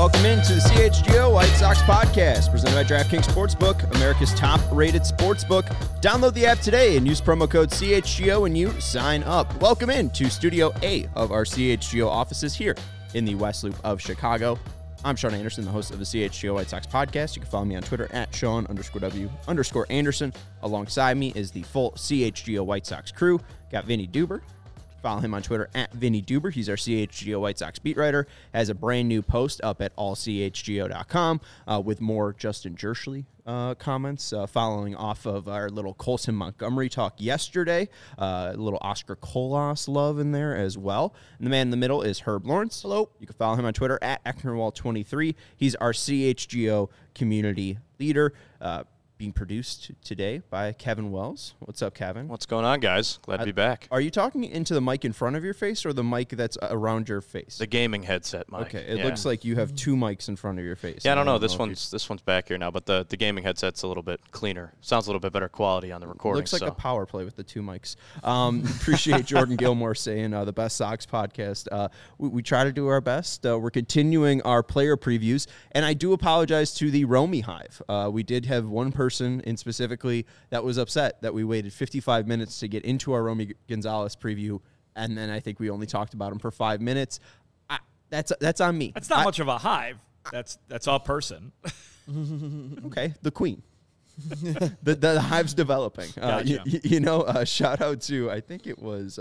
Welcome into the CHGO White Sox podcast, presented by DraftKings Sportsbook, America's top-rated sportsbook. Download the app today and use promo code CHGO and you sign up. Welcome into Studio A of our CHGO offices here in the West Loop of Chicago. I'm Sean Anderson, the host of the CHGO White Sox podcast. You can follow me on Twitter at Sean_W_Anderson. Alongside me is the full CHGO White Sox crew. Got Vinny Duber. Follow him on Twitter at Vinny Duber. He's our CHGO White Sox beat writer. Has a brand new post up at allchgo.com with more Justin Jerschley comments following off of our little Colson Montgomery talk yesterday. A little Oscar Colas love in there as well. And the man in the middle is Herb Lawrence. Hello. You can follow him on Twitter at Ecknerwall23. He's our CHGO community leader. Being produced today by Kevin Wells. What's up, Kevin? What's going on, guys? Glad to be back. Are you talking into the mic in front of your face or the mic that's around your face? The gaming headset mic. Okay, it looks like you have two mics in front of your face. Yeah, I don't know. This one's back here now, but the gaming headset's a little bit cleaner. Sounds a little bit better quality on the recording. Looks like a power play with the two mics. Appreciate Jordan Gilmore saying the Best Sox podcast. We try to do our best. We're continuing our player previews, and I do apologize to the Romy Hive. We did have one person in specifically that was upset that we waited 55 minutes to get into our Romy Gonzalez preview, and then I think we only talked about him for 5 minutes. That's on me. That's not much of a hive. That's a person. Okay, the queen. the hive's developing. Gotcha. Shout out to, I think it was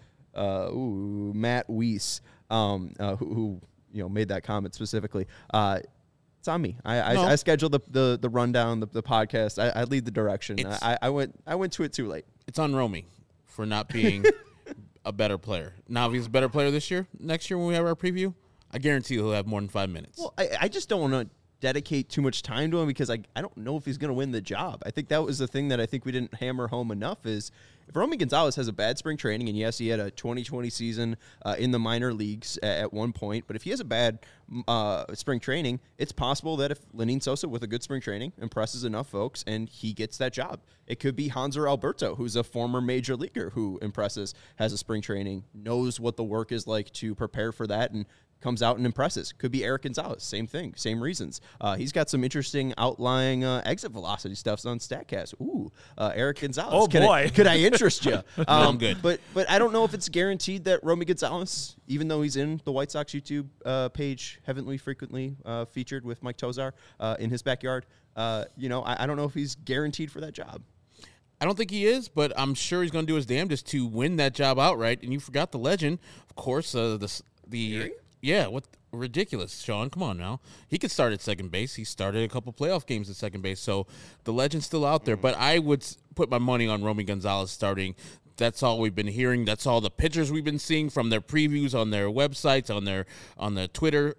Matt Weiss, who made that comment specifically. It's on me. I scheduled the rundown, the podcast. I lead the direction. I went to it too late. It's on Romy for not being a better player. Now, if he's a better player next year when we have our preview, I guarantee he'll have more than 5 minutes. Well, I just don't want to dedicate too much time to him because I don't know if he's going to win the job. I think that was the thing that I think we didn't hammer home enough is if Romy Gonzalez has a bad spring training, and yes, he had a 2020 season in the minor leagues at one point, but if he has a bad spring training, it's possible that if Lenyn Sosa with a good spring training impresses enough folks and he gets that job. It could be Hanser Alberto, who's a former major leaguer who impresses, has a spring training, knows what the work is like to prepare for that, and comes out and impresses. Could be Eric Gonzalez. Same thing. Same reasons. He's got some interesting outlying exit velocity stuff on StatCast. Ooh, Eric Gonzalez. Oh, boy. Could I interest you? I'm good. But I don't know if it's guaranteed that Romy Gonzalez, even though he's in the White Sox YouTube page, heavily frequently featured with Mike Tozar in his backyard, I don't know if he's guaranteed for that job. I don't think he is, but I'm sure he's going to do his damnedest to win that job outright. And you forgot the legend, of course, Yeah, what ridiculous, Sean. Come on now. He could start at second base. He started a couple playoff games at second base, so the legend's still out there. But I would put my money on Romy Gonzalez starting. That's all we've been hearing. That's all the pictures we've been seeing from their previews on their websites, on the Twitter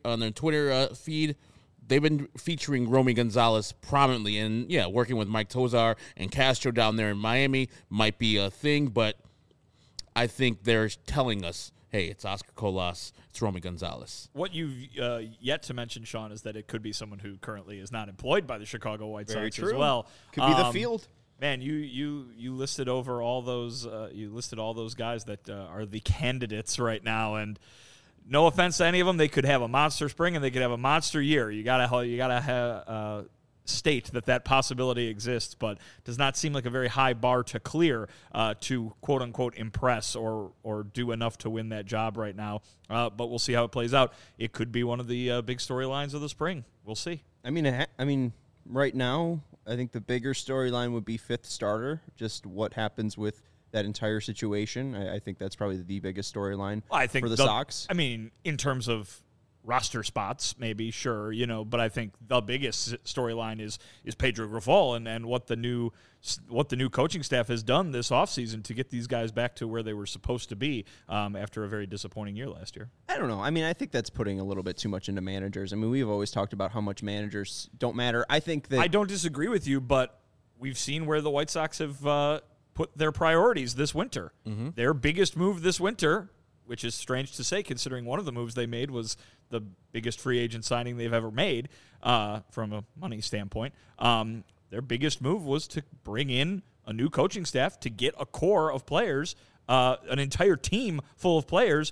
feed. They've been featuring Romy Gonzalez prominently, and working with Mike Tozar and Castro down there in Miami might be a thing, but I think they're telling us, hey, it's Oscar Colas, it's Romy Gonzalez. What you've yet to mention, Sean, is that it could be someone who currently is not employed by the Chicago White Sox as well. Could be the field. Man, you listed over all those guys that are the candidates right now, and no offense to any of them, they could have a monster spring and they could have a monster year. You gotta state that possibility exists, but does not seem like a very high bar to clear to quote unquote impress or do enough to win that job right now. But we'll see how it plays out. It could be one of the big storylines of the spring. We'll see. I mean, right now, I think the bigger storyline would be fifth starter. Just what happens with that entire situation. I think that's probably the biggest storyline for the Sox. I mean, in terms of roster spots, maybe, sure, but I think the biggest storyline is Pedro Grifol and what the new coaching staff has done this offseason to get these guys back to where they were supposed to be after a very disappointing year last year. I don't know. I mean, I think that's putting a little bit too much into managers. I mean, we've always talked about how much managers don't matter. I think that... I don't disagree with you, but we've seen where the White Sox have put their priorities this winter. Mm-hmm. Their biggest move this winter, which is strange to say considering one of the moves they made was the biggest free agent signing they've ever made from a money standpoint. Their biggest move was to bring in a new coaching staff to get a core of players, an entire team full of players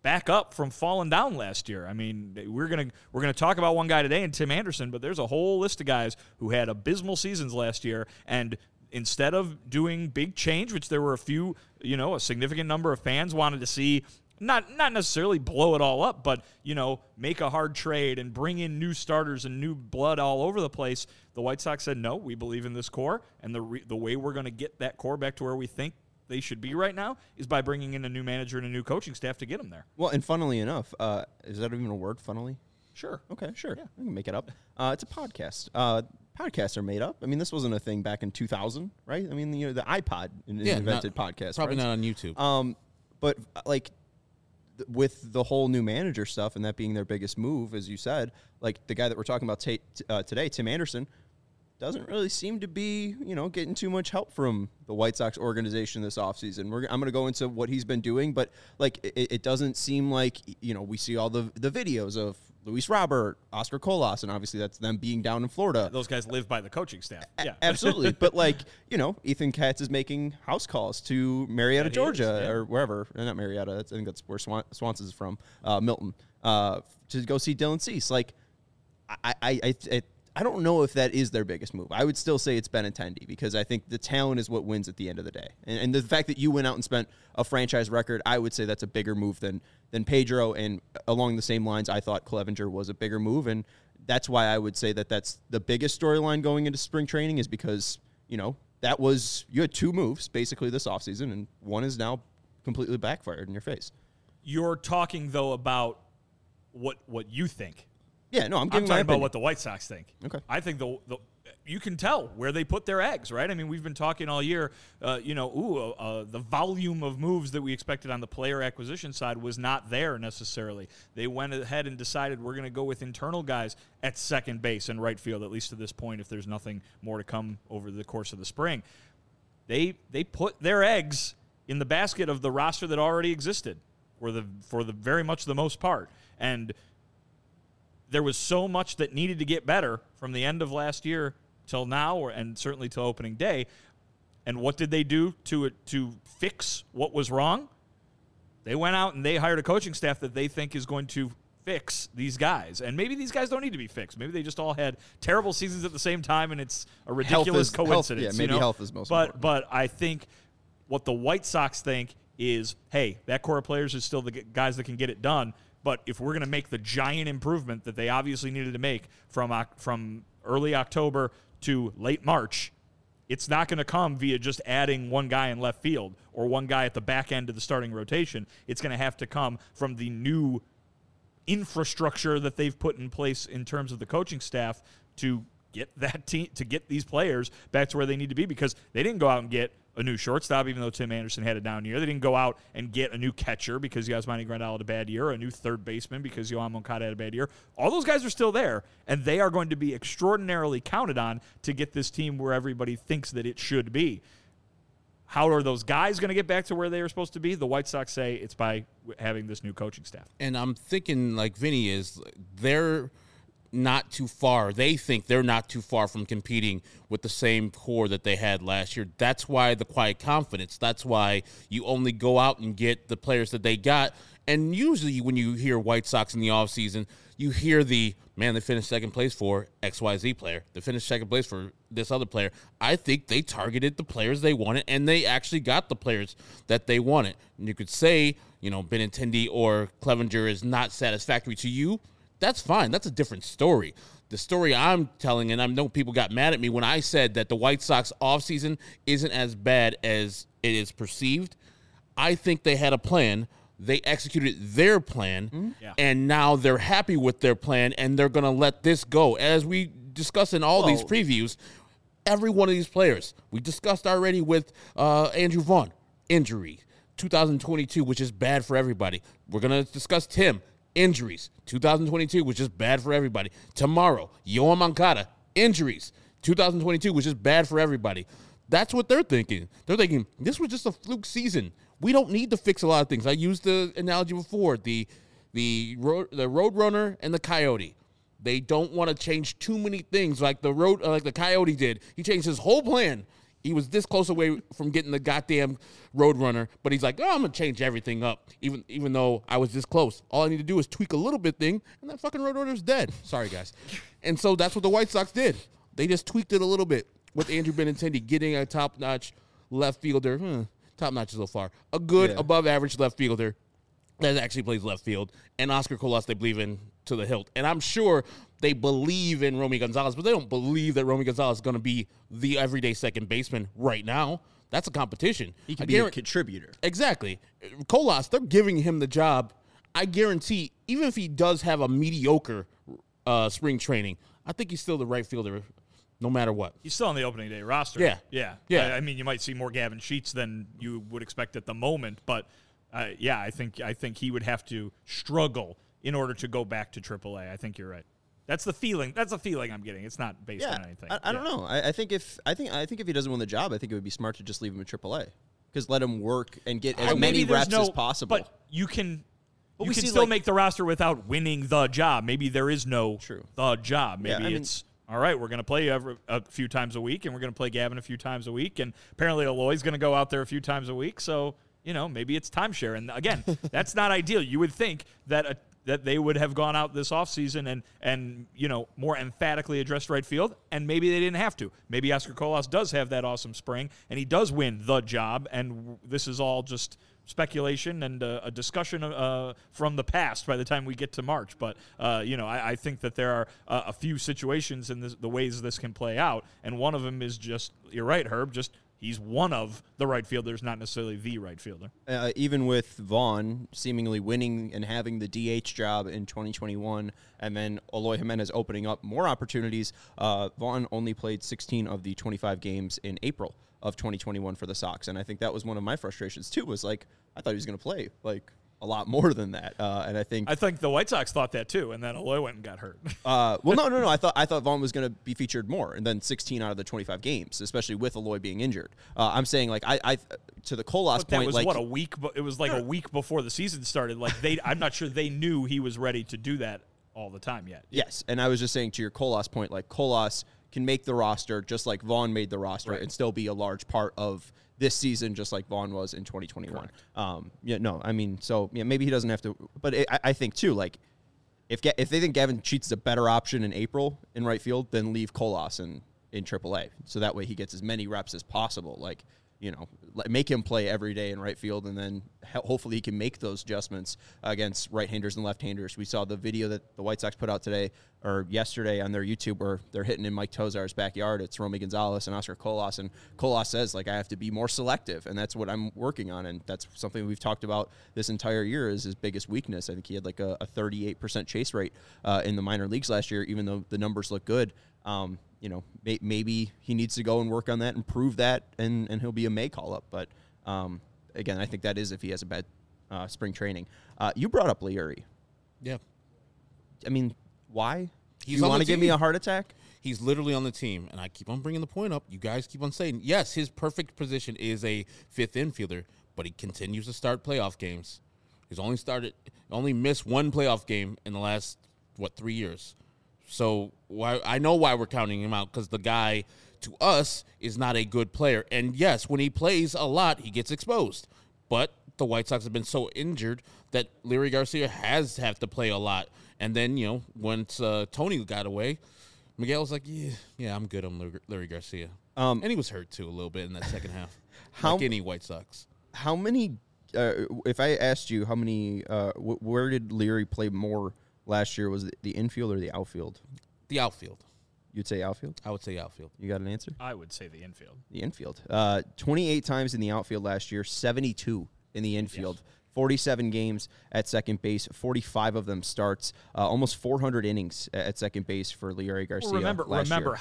back up from falling down last year. I mean, we're gonna talk about one guy today, and Tim Anderson, but there's a whole list of guys who had abysmal seasons last year, and instead of doing big change, which there were a few, a significant number of fans wanted to see, not necessarily blow it all up, but, make a hard trade and bring in new starters and new blood all over the place, the White Sox said, no, we believe in this core, and the way we're going to get that core back to where we think they should be right now is by bringing in a new manager and a new coaching staff to get them there. Well, and funnily enough, is that even a word, funnily? Sure. Okay, sure. Yeah. I can make it up. It's a podcast. Podcasts are made up. I mean, this wasn't a thing back in 2000, right? I mean, the iPod invented podcasts. Probably right? not on YouTube. But with the whole new manager stuff and that being their biggest move, as you said, like the guy that we're talking about today, Tim Anderson, doesn't really seem to be, getting too much help from the White Sox organization this offseason. I'm going to go into what he's been doing, but it doesn't seem like, we see all the videos of Luis Robert, Oscar Colas, and obviously that's them being down in Florida. Those guys live by the coaching staff. Yeah, absolutely. But Ethan Katz is making house calls to Marietta, Georgia, or wherever. Not Marietta. I think that's where Swanson's from, Milton, to go see Dylan Cease. I don't know if that is their biggest move. I would still say it's Benintendi because I think the talent is what wins at the end of the day. And the fact that you went out and spent a franchise record, I would say that's a bigger move than Pedro. And along the same lines, I thought Clevenger was a bigger move. And that's why I would say that that's the biggest storyline going into spring training is because, you had two moves basically this offseason, and one is now completely backfired in your face. You're talking, though, about what you think. Yeah, no, I'm talking my about opinion. what the White Sox think. Okay. I think you can tell where they put their eggs, right? I mean, we've been talking all year, the volume of moves that we expected on the player acquisition side was not there necessarily. They went ahead and decided we're going to go with internal guys at second base and right field, at least to this point, if there's nothing more to come over the course of the spring. They put their eggs in the basket of the roster that already existed for the very much the most part. And there was so much that needed to get better from the end of last year till now, and certainly till opening day. And what did they do to fix what was wrong? They went out and they hired a coaching staff that they think is going to fix these guys. And maybe these guys don't need to be fixed. Maybe they just all had terrible seasons at the same time, and it's a ridiculous coincidence. Health is most important. But I think what the White Sox think is, hey, that core of players is still the guys that can get it done. But if we're going to make the giant improvement that they obviously needed to make from early October to late March, it's not going to come via just adding one guy in left field or one guy at the back end of the starting rotation. It's going to have to come from the new infrastructure that they've put in place in terms of the coaching staff to get that team, to get these players back to where they need to be, because they didn't go out and get a new shortstop, even though Tim Anderson had a down year. They didn't go out and get a new catcher because Yasmani Grandal had a bad year, or a new third baseman because Yohan Moncada had a bad year. All those guys are still there, and they are going to be extraordinarily counted on to get this team where everybody thinks that it should be. How are those guys going to get back to where they are supposed to be? The White Sox say it's by having this new coaching staff. And I'm thinking, like Vinny is, they're not too far. They think they're not too far from competing with the same core that they had last year. That's why the quiet confidence. That's why you only go out and get the players that they got. And usually when you hear White Sox in the offseason, you hear they finished second place for XYZ player. They finished second place for this other player. I think they targeted the players they wanted, and they actually got the players that they wanted. And you could say, Benintendi or Clevenger is not satisfactory to you. That's fine. That's a different story. The story I'm telling, and I know people got mad at me when I said that the White Sox offseason isn't as bad as it is perceived. I think they had a plan. They executed their plan, and now they're happy with their plan, and they're going to let this go. As we discussed in all these previews, every one of these players, we discussed already with Andrew Vaughn, injury, 2022, which is bad for everybody. We're going to discuss Tim, injuries, 2022, which is bad for everybody. Tomorrow, Yohan Moncada, injuries, 2022, which is bad for everybody. That's what they're thinking. They're thinking, this was just a fluke season. We don't need to fix a lot of things. I used the analogy before, the Roadrunner and the Coyote. They don't want to change too many things like the Coyote did. He changed his whole plan He was this close away from getting the goddamn Roadrunner, but he's like, oh, I'm going to change everything up, even though I was this close. All I need to do is tweak a little bit thing, and that fucking Roadrunner's dead. Sorry, guys. And so that's what the White Sox did. They just tweaked it a little bit with Andrew Benintendi getting a top-notch left fielder. Top-notch is a little far. A good, above-average left fielder that actually plays left field. And Oscar Colas, they believe in to the hilt. And I'm sure they believe in Romy Gonzalez, but they don't believe that Romy Gonzalez is going to be the everyday second baseman right now. That's a competition. He can be a contributor. Exactly. Colas, they're giving him the job. I guarantee, even if he does have a mediocre spring training, I think he's still the right fielder no matter what. He's still on the opening day roster. Yeah. I mean, you might see more Gavin Sheets than you would expect at the moment, but I think he would have to struggle in order to go back to AAA. I think you're right. That's the feeling. That's the feeling I'm getting. It's not based on anything. I don't know. I think if he doesn't win the job, I think it would be smart to just leave him at AAA because let him work and get as many reps as possible. But you can. You can still make the roster without winning the job. Maybe there is no the job. Maybe it's all right. We're going to play a few times a week, and we're going to play Gavin a few times a week, and apparently Eloy's going to go out there a few times a week. So maybe it's timeshare. And again, that's not ideal. You would think that they would have gone out this offseason and more emphatically addressed right field, and maybe they didn't have to. Maybe Oscar Colas does have that awesome spring, and he does win the job, and this is all just speculation and a discussion from the past by the time we get to March. But, I think that there are a few situations in the ways this can play out, and one of them is just, you're right, Herb, just he's one of the right fielders, not necessarily the right fielder. Even with Vaughn seemingly winning and having the DH job in 2021, and then Eloy Jimenez opening up more opportunities, Vaughn only played 16 of the 25 games in April of 2021 for the Sox. And I think that was one of my frustrations, too, was like, I thought he was going to play, like, a lot more than that. And I think the White Sox thought that too, and then Eloy went and got hurt. No. I thought Vaughn was going to be featured more, and then 16 out of the 25 games, especially with Eloy being injured. I'm saying like I to the Colas point, was like a week. It was like a week before the season started. Like I'm not sure they knew he was ready to do that all the time yet. Yes, and I was just saying to your Colas point, like Colas can make the roster just like Vaughn made the roster and still be a large part of this season, just like Vaughn was in 2021. Maybe he doesn't have to, but I think too, like if they think Gavin Sheets is a better option in April in right field, then leave Colas in AAA, so that way he gets as many reps as possible. Like make him play every day in right field, and then hopefully he can make those adjustments against right-handers and left-handers. We saw the video that the White Sox put out today or yesterday on their YouTube where they're hitting in Mike Tozar's backyard. It's Romy Gonzalez and Oscar Colas, and Colas says, like, I have to be more selective, and that's what I'm working on, and that's something we've talked about this entire year is his biggest weakness. I think he had like a 38% chase rate in the minor leagues last year, even though the numbers look good. Maybe he needs to go and work on that and prove that, and he'll be a May call-up. But, again, I think that is if he has a bad spring training. You brought up Leury. Yeah. I mean, why? You want to give me a heart attack? He's literally on the team, and I keep on bringing the point up. You guys keep on saying, yes, his perfect position is a fifth infielder, but he continues to start playoff games. He's only missed one playoff game in the last, 3 years. So I know why we're counting him out, because the guy, to us, is not a good player. And, yes, when he plays a lot, he gets exposed. But the White Sox have been so injured that Leury Garcia has had to play a lot. And then, once Tony got away, Miguel was like, yeah, I'm good on Leury Garcia. And he was hurt, too, a little bit in that second half, like any White Sox. How many, if I asked you how many, where did Leury play more last year? Was it the infield or the outfield? The outfield. You'd say outfield? I would say outfield. You got an answer? I would say the infield. The infield. 28 times in the outfield last year, 72 in the infield. Yes. 47 games at second base, 45 of them starts, almost 400 innings at second base for Leury Garcia. Well, remember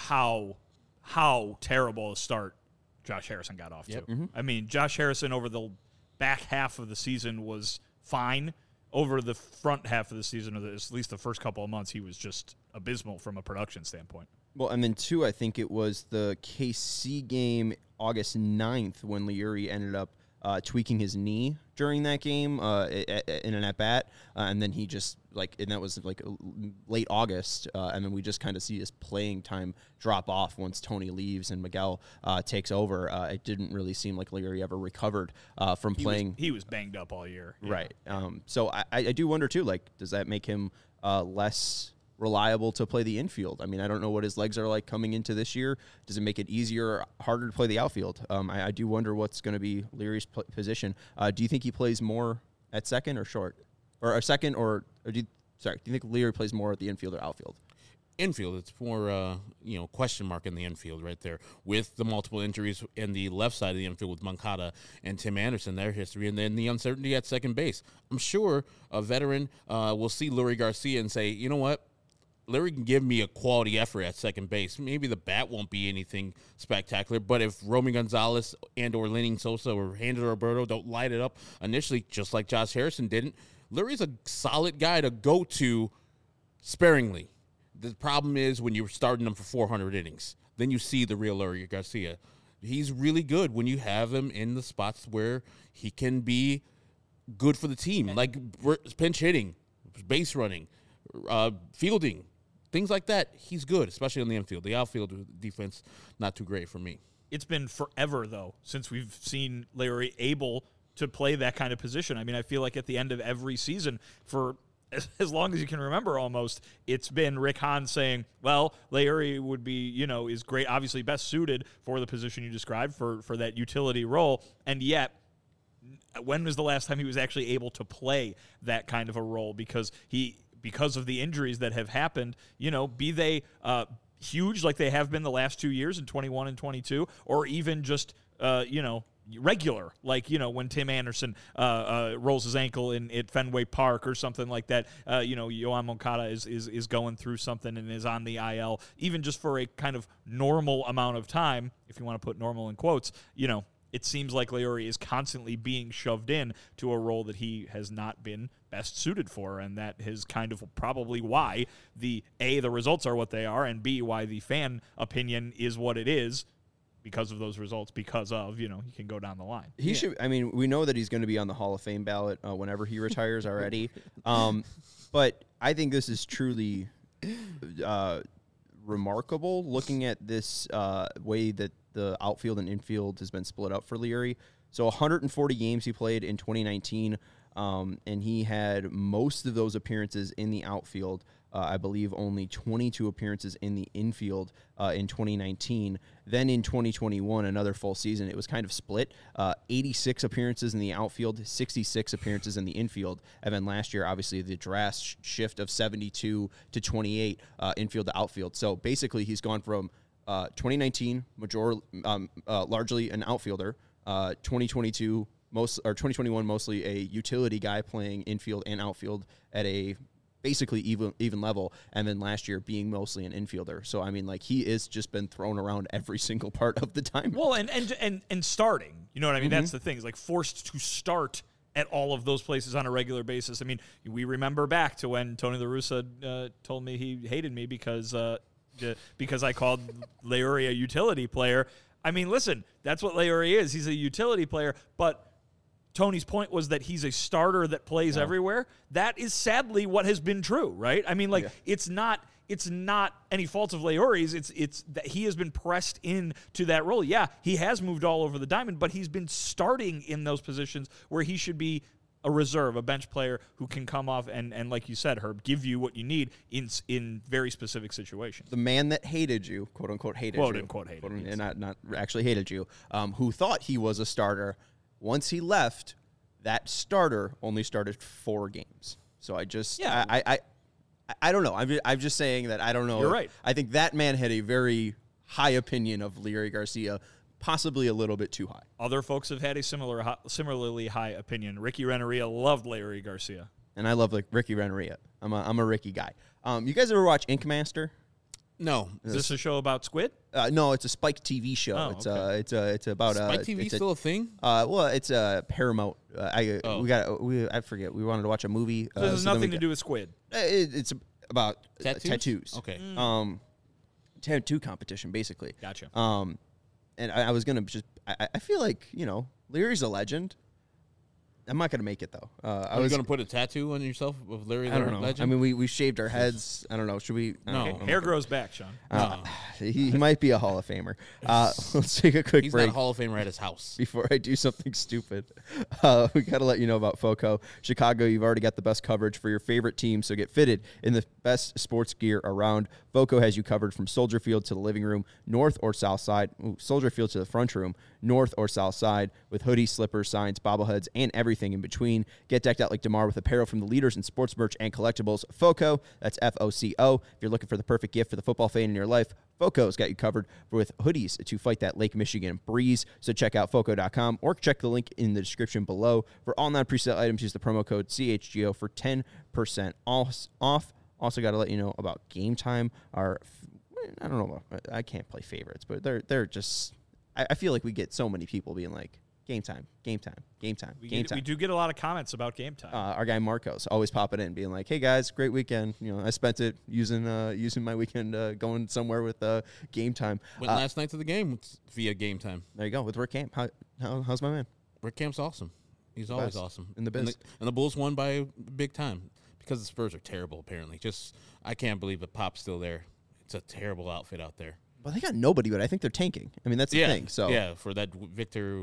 how terrible a start Josh Harrison got off to. Mm-hmm. I mean, Josh Harrison over the back half of the season was fine. Over the front half of the season, or at least the first couple of months, he was just abysmal from a production standpoint. Well, and then, too, I think it was the KC game August 9th when Leury ended up tweaking his knee during that game in an at-bat, and then he just, and that was late August, and then we just kind of see his playing time drop off once Tony leaves and Miguel takes over. It didn't really seem like Leury ever recovered from playing. He was banged up all year. Yeah. Right. So I do wonder, too, does that make him less reliable to play the infield? I mean, I don't know what his legs are like coming into this year. Does it make it easier or harder to play the outfield? I do wonder what's going to be Leury's position. Do you think he plays more at second or short? Or second do you think Leury plays more at the infield or outfield? Infield, it's more, question mark in the infield right there with the multiple injuries in the left side of the infield with Moncada and Tim Anderson, their history, and then the uncertainty at second base. I'm sure a veteran will see Leury Garcia and say, you know what? Leury can give me a quality effort at second base. Maybe the bat won't be anything spectacular, but if Romy Gonzalez and or Lenny Sosa or Hander Roberto don't light it up initially, just like Josh Harrison didn't, Leury's a solid guy to go to sparingly. The problem is when you're starting him for 400 innings, then you see the real Leury Garcia. He's really good when you have him in the spots where he can be good for the team, like pinch hitting, base running, fielding. Things like that, he's good, especially on the infield. The outfield defense, not too great for me. It's been forever, though, since we've seen Leury able to play that kind of position. I mean, I feel like at the end of every season, for as long as you can remember almost, it's been Rick Hahn saying, well, Leury would be, is great, obviously best suited for the position you described, for that utility role, and yet when was the last time he was actually able to play that kind of a role? Because of the injuries that have happened, be they huge like they have been the last 2 years in 21 and 22, or even just, regular, like, when Tim Anderson rolls his ankle at Fenway Park or something like that, Yoan Moncada is going through something and is on the IL, even just for a kind of normal amount of time, if you want to put normal in quotes, it seems like Leury is constantly being shoved in to a role that he has not been best suited for, and that is kind of probably why the results are what they are, and B, why the fan opinion is what it is, because of those results, because of, you can go down the line. He should, I mean, we know that he's going to be on the Hall of Fame ballot whenever he retires already, but I think this is truly remarkable looking at this way that the outfield and infield has been split up for Leury. So 140 games he played in 2019, and he had most of those appearances in the outfield. I believe only 22 appearances in the infield in 2019. Then in 2021, another full season, it was kind of split. 86 appearances in the outfield, 66 appearances in the infield. And then last year, obviously, the drastic shift of 72 to 28 infield to outfield. So basically, he's gone from 2019, largely an outfielder, 2022, 2021, mostly a utility guy playing infield and outfield at a basically even level, and then last year being mostly an infielder. So I mean, he is just been thrown around every single part of the time. Well, and starting, you know what I mean? Mm-hmm. That's the thing. It's I to start at all of those places on a regular basis. I mean, we remember back to when Tony La Russa told me he hated me because I called Leury a utility player. I mean, listen, that's what Leury is. He's a utility player, but Tony's point was that he's a starter that plays everywhere. That is sadly what has been true, right? I mean, it's not any fault of Leury's. It's that he has been pressed into that role. Yeah, he has moved all over the diamond, but he's been starting in those positions where he should be a reserve, a bench player who can come off and like you said, Herb, give you what you need in very specific situations. The man that hated you, quote unquote hated you, and not actually hated you, who thought he was a starter. Once he left, that starter only started 4 games. So I just, I don't know. I'm just saying that I don't know. You're right. I think that man had a very high opinion of Leury Garcia, possibly a little bit too high. Other folks have had a similarly high opinion. Ricky Renneria loved Leury Garcia. And I love Ricky Renneria. I'm a Ricky guy. You guys ever watch Ink Master? No. Is this a show about squid? No, it's a Spike TV show. Oh, it's about Spike TV still a thing? Well, it's a Paramount. I forget. We wanted to watch a movie. So this has nothing to do with squid. It's about tattoos. Okay. Tattoo competition, basically. Gotcha. And I was gonna just. I feel like Leury's a legend, I'm not going to make it, though. Are you going to put a tattoo on yourself of Larry I don't know. Legend? I mean, we shaved our heads. I don't know. Should we? No. Hair grows back, Sean. He might be a Hall of Famer. Let's take a quick He's break. not a Hall of Famer at his house. Before I do something stupid, we got to let you know about FOCO. Chicago, you've already got the best coverage for your favorite team, so get fitted in the best sports gear around. FOCO has you covered from Soldier Field to the living room, north or south side. Soldier Field to the front room, north or south side, with hoodies, slippers, signs, bobbleheads, and everything in between. Get decked out like DeMar with apparel from the leaders in sports merch and collectibles. FOCO, that's FOCO. If you're looking for the perfect gift for the football fan in your life, FOCO's got you covered with hoodies to fight that Lake Michigan breeze. So check out FOCO.com or check the link in the description below. For all non-presale items, use the promo code CHGO for 10% off. Also got to let you know about Game Time. I don't know. I can't play favorites, but they're just. I feel like we get so many people being like, Game Time, Game Time, Game Time, Game Time. We do get a lot of comments about Game Time. Our guy Marcos always popping in, being like, "Hey guys, great weekend. You know, I spent it using my weekend going somewhere with Game Time." Went last night to the game via Game Time. There you go with Rick Camp. How's my man? Rick Camp's awesome. He's always awesome in the biz. And the Bulls won by a big time because the Spurs are terrible. Apparently, I can't believe that Pop's still there. It's a terrible outfit out there. Well, they got nobody, but I think they're tanking. I mean, that's the thing. So for that Victor,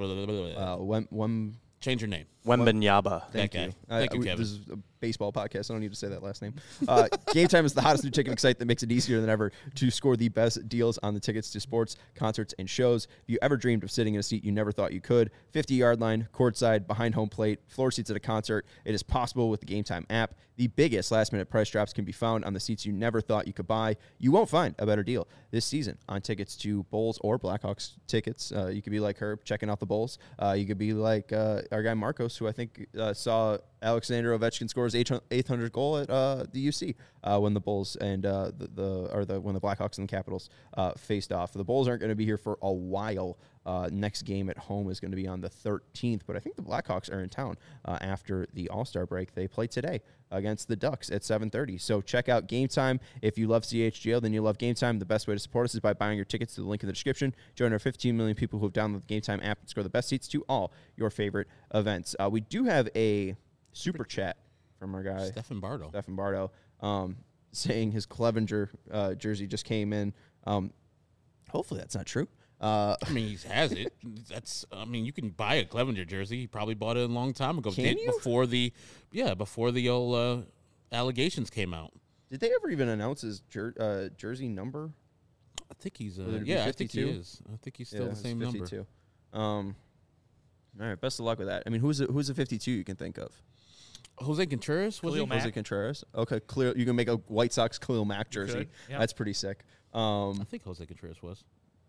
change your name. Wembanyama. Thank That you. guy. Thank you, Kevin. This is a baseball podcast. I don't need to say that last name. Game Time is the hottest new ticketing site that makes it easier than ever to score the best deals on the tickets to sports, concerts, and shows. If you ever dreamed of sitting in a seat you never thought you could, 50-yard line, courtside, behind home plate, floor seats at a concert, it is possible with the Game Time app. The biggest last-minute price drops can be found on the seats you never thought you could buy. You won't find a better deal this season on tickets to Bulls or Blackhawks tickets. You could be like Herb, checking out the Bulls. You could be like our guy Marcos, who I think saw Alexander Ovechkin score his 800th goal at the UC when the Bulls and when the Blackhawks and the Capitals faced off. The Bulls aren't going to be here for a while. Next game at home is going to be on the 13th, but I think the Blackhawks are in town after the All-Star break. They play today against the Ducks at 7:30. So check out Game Time. If you love CHGO, then you love Game Time. The best way to support us is by buying your tickets to the link in the description. Join our 15 million people who have downloaded the Game Time app and score the best seats to all your favorite events. We do have a super chat from our guy Stefan Bardo, saying his Clevenger jersey just came in. Hopefully that's not true. I mean, he has it. You can buy a Clevenger jersey. He probably bought it a long time ago. Can you? Before the old allegations came out. Did they ever even announce his jersey number? I think he's Would it be I think he 52? is. I think he's still the same number. 52. All right, best of luck with that. I mean, who's a 52 you can think of? Jose Contreras was Khalil he? Mack. Jose Contreras. Okay, clear. You can make a White Sox Khalil Mack jersey. could, yeah. That's pretty sick. I think Jose Contreras was.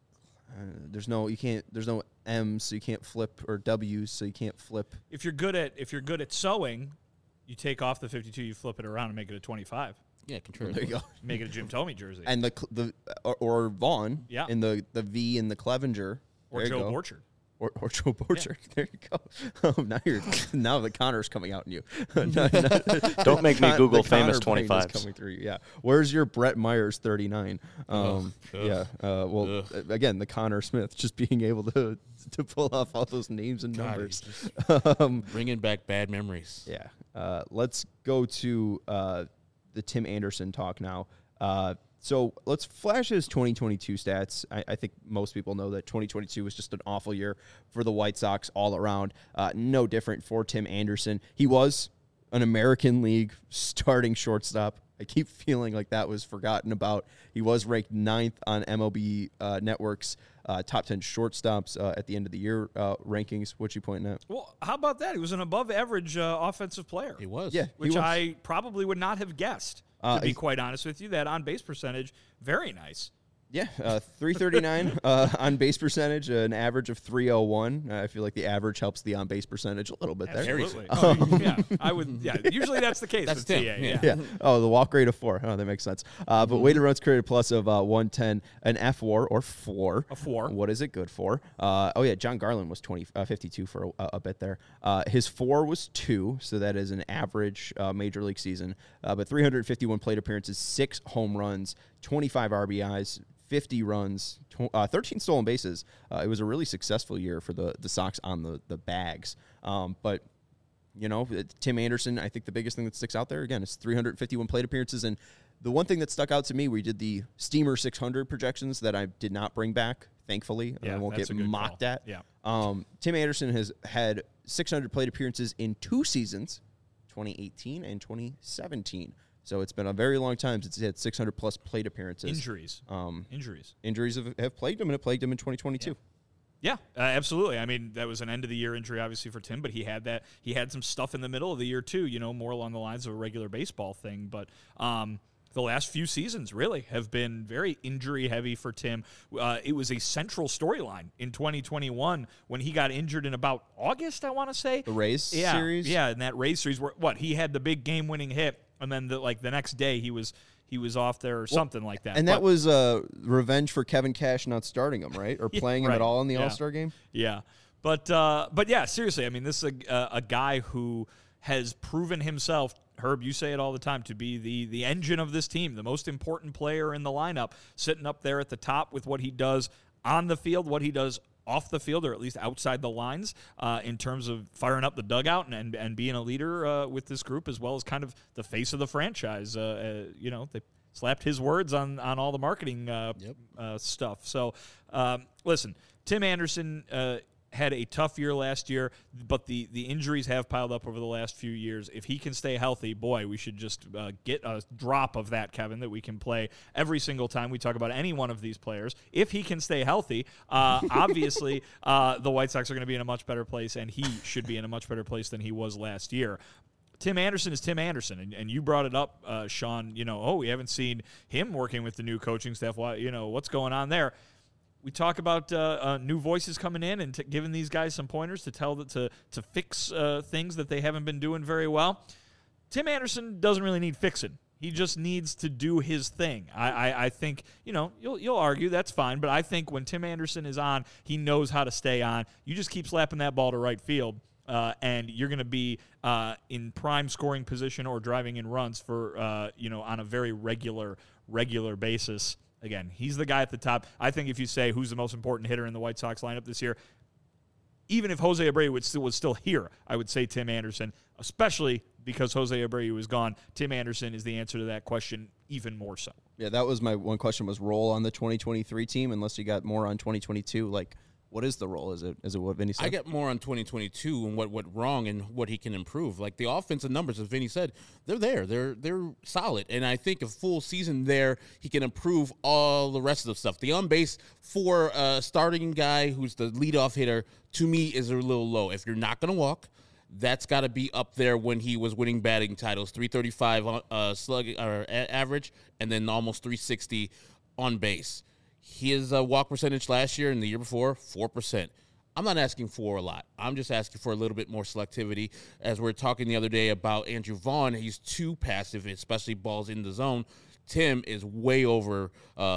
There's no M's, so you can't flip, or W's, so you can't flip. If you're good at sewing, you take off the 52, you flip it around and make it a 25. Yeah, Contreras. There you go. Make it a Jim Thome jersey. And or Vaughn. Yeah. In the V in the Clevenger. Or There you Joe go. Borchard. Or Joe Borchard. Yeah. There you go. Now the Connor's coming out in you. Don't make me Google the famous Connor brain is 25s. coming through. Yeah. Where's your Brett Myers 39? Yeah. Again, the Connor Smith just being able to pull off all those names and numbers. Bringing back bad memories. Yeah. Let's go to the Tim Anderson talk now. So let's flash his 2022 stats. I think most people know that 2022 was just an awful year for the White Sox all around. No different for Tim Anderson. He was an American League starting shortstop. I keep feeling like that was forgotten about. He was ranked 9th on MLB Network's top 10 shortstops at the end of the year rankings. What you pointing at? Well, how about that? He was an above-average offensive player. He was. Yeah, Which he was. I probably would not have guessed, to be quite honest with you. That on-base percentage, very nice. Yeah, 339 on base percentage, an average of 301. I feel like the average helps the on base percentage a little bit there. Absolutely. Yeah, I would. Yeah, usually that's the case That's with Tim, TA. yeah. Yeah. Oh, the walk rate of 4. Oh, that makes sense. But weighted runs created plus of 110, an F4 or floor. A 4. What is it good for? John Garland was 52 for a bit there. His 4 was 2, so that is an average major league season. But 351 plate appearances, 6 home runs, 25 RBIs, 50 runs, 13 stolen bases. It was a really successful year for the Sox on the bags. But Tim Anderson, I think the biggest thing that sticks out there, again, is 351 plate appearances. And the one thing that stuck out to me, we did the Steamer 600 projections that I did not bring back, thankfully. Yeah, I won't that's get a good mocked call. at. Yeah. Tim Anderson has had 600 plate appearances in 2 seasons, 2018 and 2017. So it's been a very long time since he had 600-plus plate appearances. Injuries. Injuries have plagued him, and it plagued him in 2022. Yeah, absolutely. I mean, that was an end-of-the-year injury, obviously, for Tim, but he had that. He had some stuff in the middle of the year, too, more along the lines of a regular baseball thing. But the last few seasons really have been very injury-heavy for Tim. It was a central storyline in 2021 when he got injured in about August, I want to say. The Rays series? Yeah, in that Rays series where, he had the big game-winning hit, and then the next day he was off there or something like that. And that was revenge for Kevin Cash not starting him, right? Or playing him at all in the All-Star game? Yeah. But yeah, seriously, I mean, this is a guy who has proven himself, Herb, you say it all the time, to be the engine of this team, the most important player in the lineup, sitting up there at the top with what he does on the field, what he does off the field, or at least outside the lines, in terms of firing up the dugout and being a leader with this group, as well as kind of the face of the franchise. They slapped his words on all the marketing stuff. So, listen, Tim Anderson had a tough year last year, but the injuries have piled up over the last few years. If he can stay healthy, boy, we should just get a drop of that, Kevin, that we can play every single time we talk about any one of these players. If he can stay healthy, obviously the White Sox are going to be in a much better place, and he should be in a much better place than he was last year. Tim Anderson is Tim Anderson, and you brought it up, Sean. We haven't seen him working with the new coaching staff. What's going on there? We talk about new voices coming in and giving these guys some pointers to fix things that they haven't been doing very well. Tim Anderson doesn't really need fixing. He just needs to do his thing. I think, you'll argue that's fine, but I think when Tim Anderson is on, he knows how to stay on. You just keep slapping that ball to right field, and you're going to be in prime scoring position or driving in runs for, on a very regular basis. Again, he's the guy at the top. I think if you say who's the most important hitter in the White Sox lineup this year, even if Jose Abreu was still here, I would say Tim Anderson, especially because Jose Abreu is gone. Tim Anderson is the answer to that question even more so. Yeah, that was my one question, was role on the 2023 team, unless you got more on 2022. What is the role? Is it what Vinny said? I get more on 2022 and what went wrong and what he can improve. Like the offensive numbers, as Vinny said, they're there. They're solid. And I think a full season there, he can improve all the rest of the stuff. The on base for a starting guy who's the leadoff hitter, to me, is a little low. If you're not going to walk, that's got to be up there when he was winning batting titles, 335 slug or average, and then almost 360 on base. His walk percentage last year and the year before, 4%. I'm not asking for a lot. I'm just asking for a little bit more selectivity. As we were talking the other day about Andrew Vaughn, he's too passive, especially balls in the zone. Tim is way over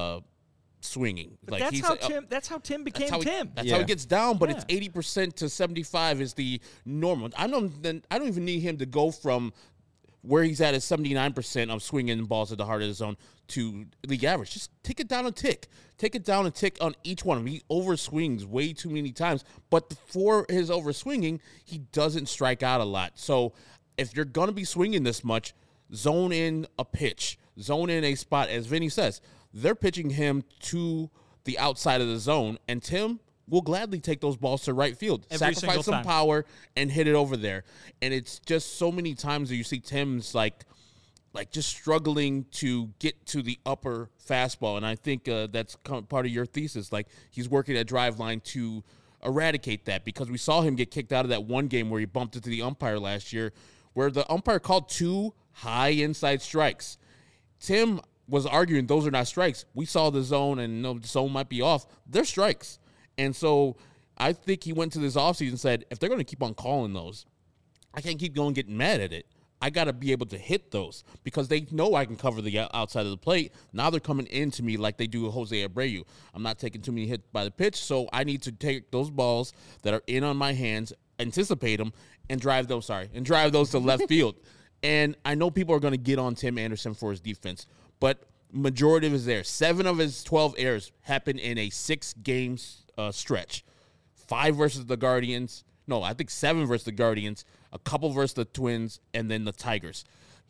swinging. But that's how Tim became Tim. That's how he gets down, but it's 80% to 75 is the normal. I don't even need him to go from where he's at 79% of swinging balls at the heart of the zone to league average. Just take it down a tick. Take it down a tick on each one. He overswings way too many times, but for his overswinging, he doesn't strike out a lot. So if you're going to be swinging this much, zone in a pitch, zone in a spot. As Vinny says, they're pitching him to the outside of the zone, and Tim will gladly take those balls to right field, sacrifice some power, and hit it over there. And it's just so many times that you see Tim's like just struggling to get to the upper fastball. And I think that's part of your thesis. Like, he's working at drive line to eradicate that, because we saw him get kicked out of that one game where he bumped into the umpire last year, where the umpire called 2 high inside strikes. Tim was arguing those are not strikes. We saw the zone, and the zone might be off. They're strikes. And so I think he went to this offseason and said, if they're going to keep on calling those, I can't keep going getting mad at it. I got to be able to hit those, because they know I can cover the outside of the plate. Now they're coming into me like they do with Jose Abreu. I'm not taking too many hits by the pitch, so I need to take those balls that are in on my hands, anticipate them, and drive those to left field. And I know people are going to get on Tim Anderson for his defense, but majority of his errors, 7 of his 12 errors happened in a 6-game stretch. 5 versus the Guardians. No, I think 7 versus the Guardians. a couple versus the Twins, and then the Tigers.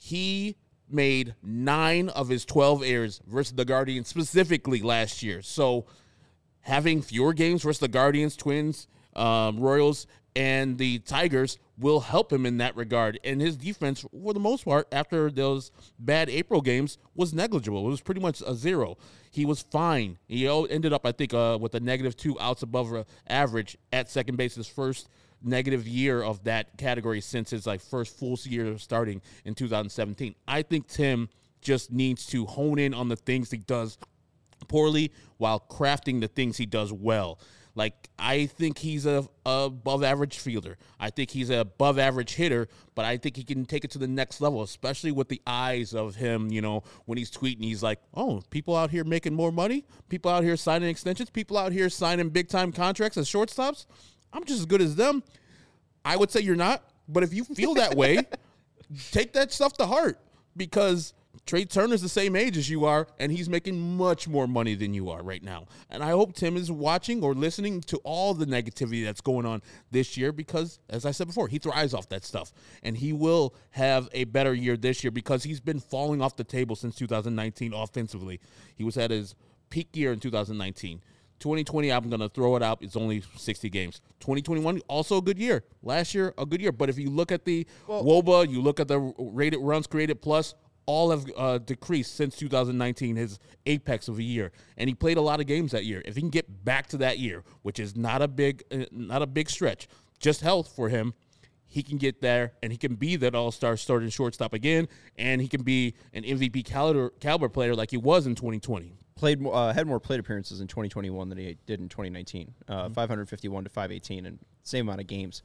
He made 9 of his 12 errors versus the Guardians specifically last year. So having fewer games versus the Guardians, Twins, Royals, and the Tigers will help him in that regard. And his defense, for the most part, after those bad April games, was negligible. It was pretty much a 0. He was fine. He ended up, I think, with a -2 outs above average at second base, his first negative year of that category since his first full year of starting in 2017. I think Tim just needs to hone in on the things he does poorly while crafting the things he does well. I think he's a above average fielder. I think he's an above average hitter, but I think he can take it to the next level, especially with the eyes of him, when he's tweeting, he's like, oh, people out here making more money, people out here signing extensions, people out here signing big time contracts as shortstops. I'm just as good as them. I would say you're not, but if you feel that way, take that stuff to heart, because Trey Turner's the same age as you are, and he's making much more money than you are right now. And I hope Tim is watching or listening to all the negativity that's going on this year, because, as I said before, he thrives off that stuff. And he will have a better year this year because he's been falling off the table since 2019 offensively. He was at his peak year in 2019. 2020, I'm going to throw it out. It's only 60 games. 2021, also a good year. Last year, a good year. But if you look at the WOBA, you look at the rated runs created plus, all have decreased since 2019, his apex of a year. And he played a lot of games that year. If he can get back to that year, which is not a big stretch, just health for him, he can get there, and he can be that all-star starting shortstop again, and he can be an MVP caliber player like he was in 2020. Had more plate appearances in 2021 than he did in 2019. 551 to 518, and same amount of games,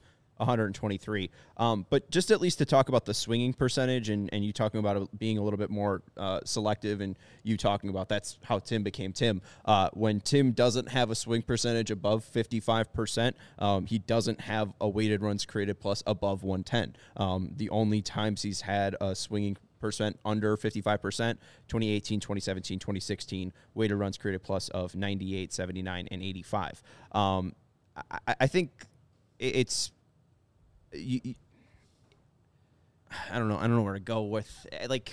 123. But just at least to talk about the swinging percentage, and you talking about it being a little bit more selective, and you talking about that's how Tim became Tim. When Tim doesn't have a swing percentage above 55%, he doesn't have a weighted runs created plus above 110. The only times he's had a swinging percent under 55%, 2018, 2017, 2016, weighted runs created plus of 98, 79, and 85. I think it's I don't know where to go with.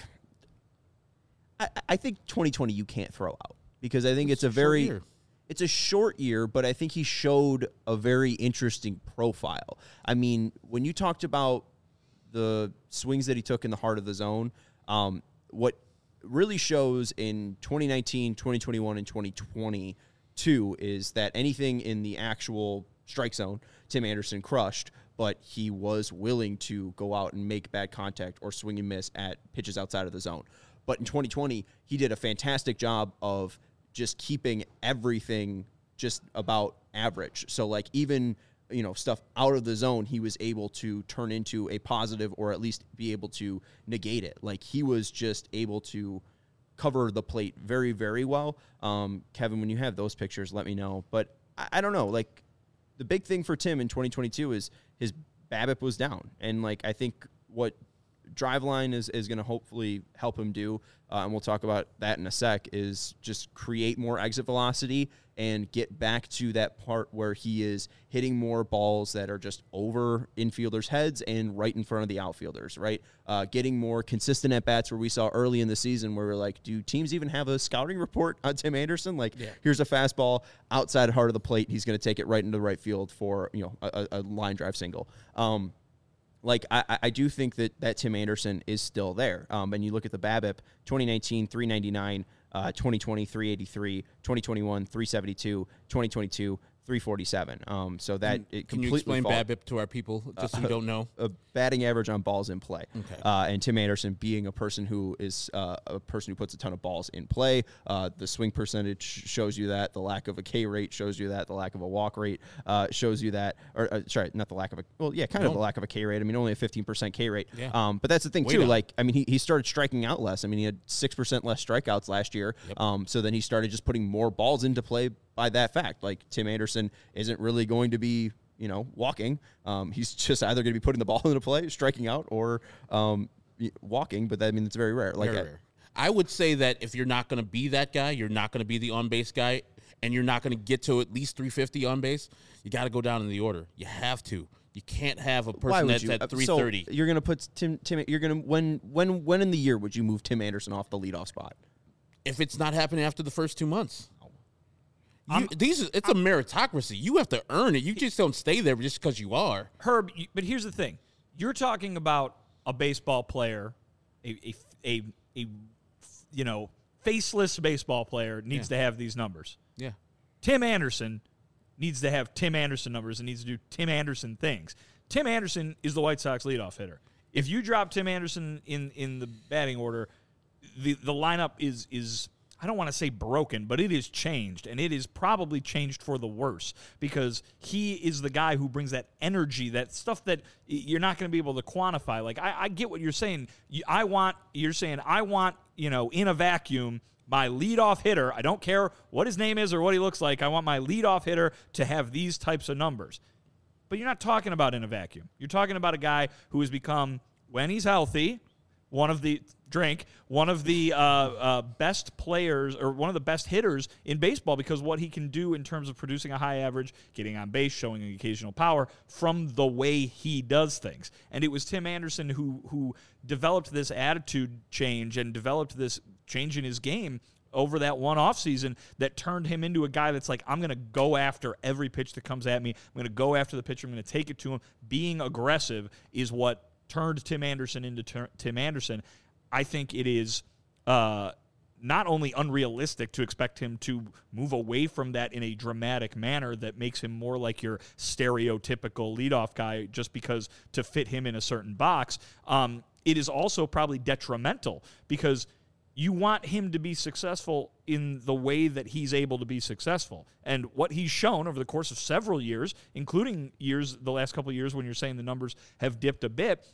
I think 2020 you can't throw out, because I think it's a short year, but I think he showed a very interesting profile. I mean, when you talked about the swings that he took in the heart of the zone, what really shows in 2019, 2021, and 2022 is that anything in the actual strike zone, Tim Anderson crushed, but he was willing to go out and make bad contact or swing and miss at pitches outside of the zone. But in 2020, he did a fantastic job of just keeping everything just about average. So even stuff out of the zone, he was able to turn into a positive, or at least be able to negate it. He was just able to cover the plate very, very well. Kevin, when you have those pictures, let me know. But I don't know. The big thing for Tim in 2022 is his BABIP was down. And I think what Driveline is going to hopefully help him do, and we'll talk about that in a sec, is just create more exit velocity and get back to that part where he is hitting more balls that are just over infielders' heads and right in front of the outfielders, right? Getting more consistent at-bats, where we saw early in the season where we're like, do teams even have a scouting report on Tim Anderson? Here's a fastball outside heart of the plate. He's going to take it right into the right field for a line drive single. I do think that Tim Anderson is still there. And you look at the BABIP, 2019, 399, 2020, 383, 2021, 372, 2022, 347. So that it completely. Can you explain BABIP to our people, just who don't know? A batting average on balls in play. Okay. And Tim Anderson being a person who is a person who puts a ton of balls in play. The swing percentage shows you that. The lack of a K rate shows you that. The lack of a walk rate shows you that. Or sorry, not the lack of a. Well, yeah, kind of the lack of a K rate. I mean, only a 15% K rate. Yeah. But that's the thing Way too. down. He started striking out less. I mean, he had 6% less strikeouts last year. Yep. So then he started just putting more balls into play by that fact. Tim Anderson isn't really going to be, walking. He's just either going to be putting the ball into play, striking out, or walking. But it's very rare. Very rare. I would say that if you're not going to be that guy, you're not going to be the on-base guy, and you're not going to get to at least 350 on base, you got to go down in the order. You have to. You can't have a Why person would that's you? at 330. So you're going to put Tim. You're going to when in the year would you move Tim Anderson off the leadoff spot? If it's not happening after the first 2 months. It's a meritocracy. You have to earn it. You just don't stay there just because you are. Herb, but here's the thing. You're talking about a baseball player, a faceless baseball player needs to have these numbers. Yeah. Tim Anderson needs to have Tim Anderson numbers and needs to do Tim Anderson things. Tim Anderson is the White Sox leadoff hitter. If you drop Tim Anderson in the batting order, the lineup is I don't want to say broken, but it is changed, and it is probably changed for the worse because he is the guy who brings that energy, that stuff that you're not going to be able to quantify. Like, I get what you're saying. You're saying, in a vacuum, my leadoff hitter, I don't care what his name is or what he looks like, I want my leadoff hitter to have these types of numbers. But you're not talking about in a vacuum. You're talking about a guy who has become, when he's healthy, one of the best players or one of the best hitters in baseball because what he can do in terms of producing a high average, getting on base, showing an occasional power from the way he does things. And it was Tim Anderson who developed this attitude change and developed this change in his game over that one offseason that turned him into a guy that's like, I'm going to go after every pitch that comes at me. I'm going to go after the pitcher. I'm going to take it to him. Being aggressive is what turned Tim Anderson into Tim Anderson. I think it is not only unrealistic to expect him to move away from that in a dramatic manner that makes him more like your stereotypical leadoff guy just because to fit him in a certain box. It is also probably detrimental because you want him to be successful in the way that he's able to be successful. And what he's shown over the course of several years, including the last couple of years when you're saying the numbers have dipped a bit,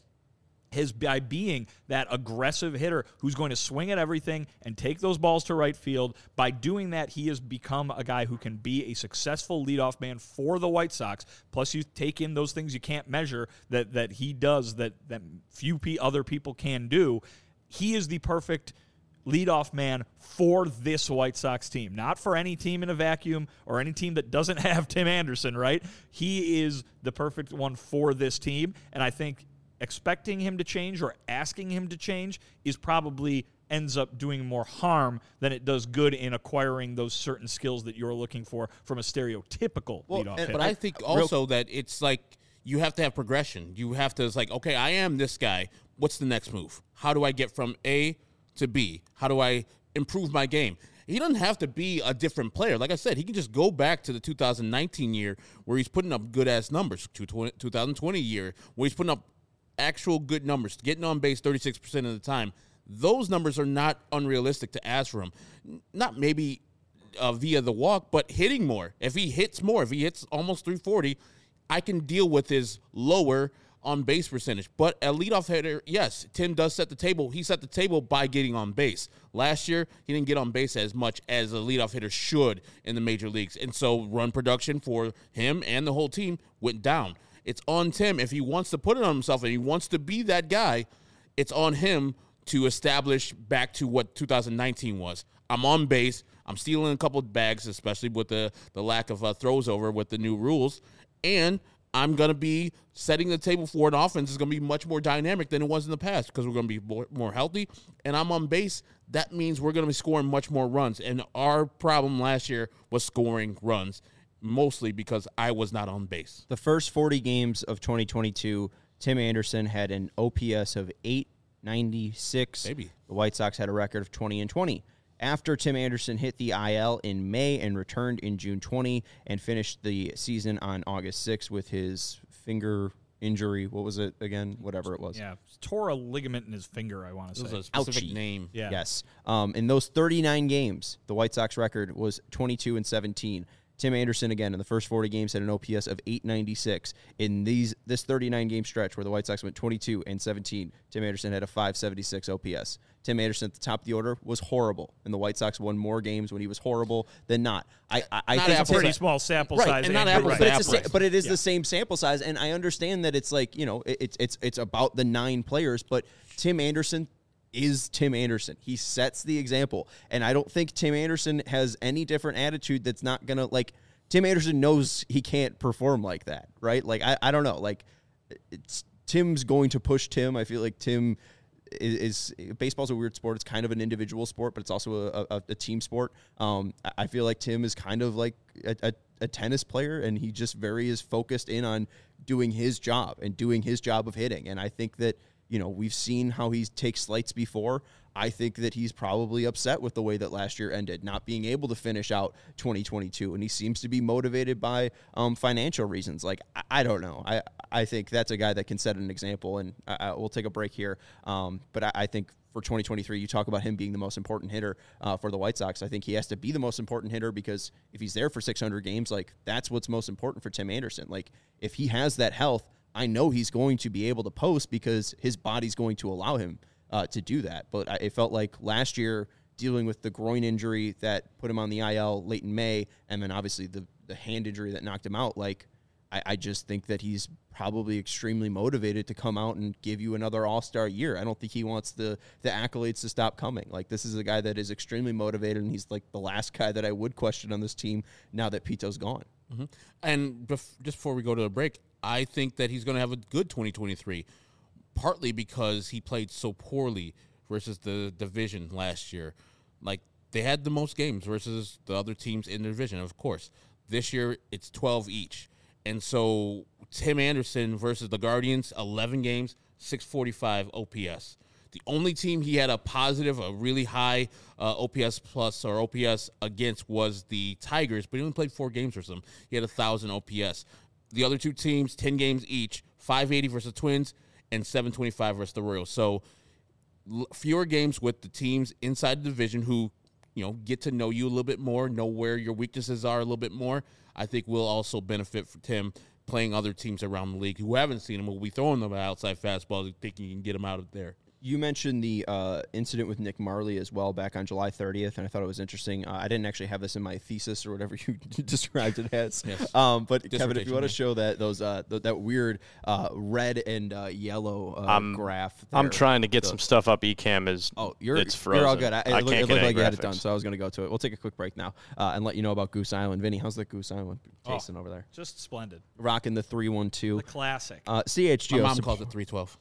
is by being that aggressive hitter who's going to swing at everything and take those balls to right field. By doing that, he has become a guy who can be a successful leadoff man for the White Sox. Plus, you take in those things you can't measure that he does that few other people can do. He is the perfect leadoff man for this White Sox team, not for any team in a vacuum or any team that doesn't have Tim Anderson, right? He is the perfect one for this team, and I think expecting him to change or asking him to change is probably ends up doing more harm than it does good in acquiring those certain skills that you're looking for from a stereotypical leadoff hitter. But I think also that it's like you have to have progression. You have to, it's like, okay, I am this guy. What's the next move? How do I get from A to B? How do I improve my game? He doesn't have to be a different player. Like I said, he can just go back to the 2019 year where he's putting up good-ass numbers, 2020 year where he's putting up actual good numbers, getting on base 36% of the time. Those numbers are not unrealistic to ask for him. Not maybe via the walk, but hitting more. If he hits more, if he hits almost 340, I can deal with his lower on-base percentage. But a leadoff hitter, yes, Tim does set the table. He set the table by getting on base. Last year, he didn't get on base as much as a leadoff hitter should in the major leagues. And so run production for him and the whole team went down. It's on Tim. If he wants to put it on himself and he wants to be that guy, it's on him to establish back to what 2019 was. I'm on base. I'm stealing a couple of bags, especially with the lack of throws over with the new rules. And I'm going to be setting the table for an offense that's going to be much more dynamic than it was in the past because we're going to be more healthy. And I'm on base. That means we're going to be scoring much more runs. And our problem last year was scoring runs, mostly because I was not on base. The first 40 games of 2022, Tim Anderson had an OPS of 896. Maybe. The White Sox had a record of 20-20. After Tim Anderson hit the IL in May and returned in June 20 and finished the season on August 6 with his finger injury. What was it again? Whatever it was. Yeah, tore a ligament in his finger, I want to say. It was a specific Ouchie. name. Yeah. Yes. In those 39 games, the White Sox record was 22-17. Tim Anderson, again, in the first 40 games, had an OPS of 896. In this 39-game stretch where the White Sox went 22-17, Tim Anderson had a 576 OPS. Tim Anderson at the top of the order was horrible, and the White Sox won more games when he was horrible than not. I think it's a pretty small sample right, size. and not apples apples, to apples. but it is the same sample size, and I understand that it's like, it's about the 9 players, but Tim Anderson is Tim Anderson. He sets the example, and I don't think Tim Anderson has any different attitude that's not going to, Tim Anderson knows he can't perform like that, right? Like, I don't know. Like, Tim's going to push Tim. I feel like Tim is baseball's a weird sport. It's kind of an individual sport, but it's also a team sport. I feel like Tim is kind of like a tennis player, and he just is focused in on doing his job and doing his job of hitting. And I think that, we've seen how he takes slights before. I think that he's probably upset with the way that last year ended, not being able to finish out 2022. And he seems to be motivated by financial reasons. Like, I don't know. I think that's a guy that can set an example, and we'll take a break here. But I think for 2023, you talk about him being the most important hitter for the White Sox. I think he has to be the most important hitter, because if he's there for 600 games, like, that's what's most important for Tim Anderson. Like, if he has that health, I know he's going to be able to post because his body's going to allow him to do that. But it felt like last year, dealing with the groin injury that put him on the IL late in May, and then obviously the hand injury that knocked him out, like, I just think that he's probably extremely motivated to come out and give you another all-star year. I don't think he wants the accolades to stop coming. Like, this is a guy that is extremely motivated, and he's like the last guy that I would question on this team now that Pito's gone. Mm-hmm. And just before we go to the break, I think that he's going to have a good 2023, partly because he played so poorly versus the division last year. Like, they had the most games versus the other teams in the division, of course. This year, it's 12 each. And so Tim Anderson versus the Guardians, 11 games, 645 OPS. The only team he had a really high OPS plus or OPS against was the Tigers, but he only played 4 games versus them. He had 1,000 OPS. The other two teams, 10 games each, 580 versus Twins and 725 versus the Royals. So fewer games with the teams inside the division who, get to know you a little bit more, know where your weaknesses are a little bit more. I think will also benefit for Tim playing other teams around the league who haven't seen him. Will be throwing them an outside fastball, thinking you can get him out of there. You mentioned the incident with Nick Marley as well back on July 30th, and I thought it was interesting. I didn't actually have this in my thesis or whatever you described it as. Yes. But Kevin, if you want to show that weird red and yellow graph. There, I'm trying to get some stuff up. ECam is it's frozen. You're all good. It looked like you had it graphics. done, so I was going to go to it. We'll take a quick break now and let you know about Goose Island. Vinny, how's the Goose Island tasting over there? Just splendid. Rocking the 312. The classic. CHGO. My mom calls it 312.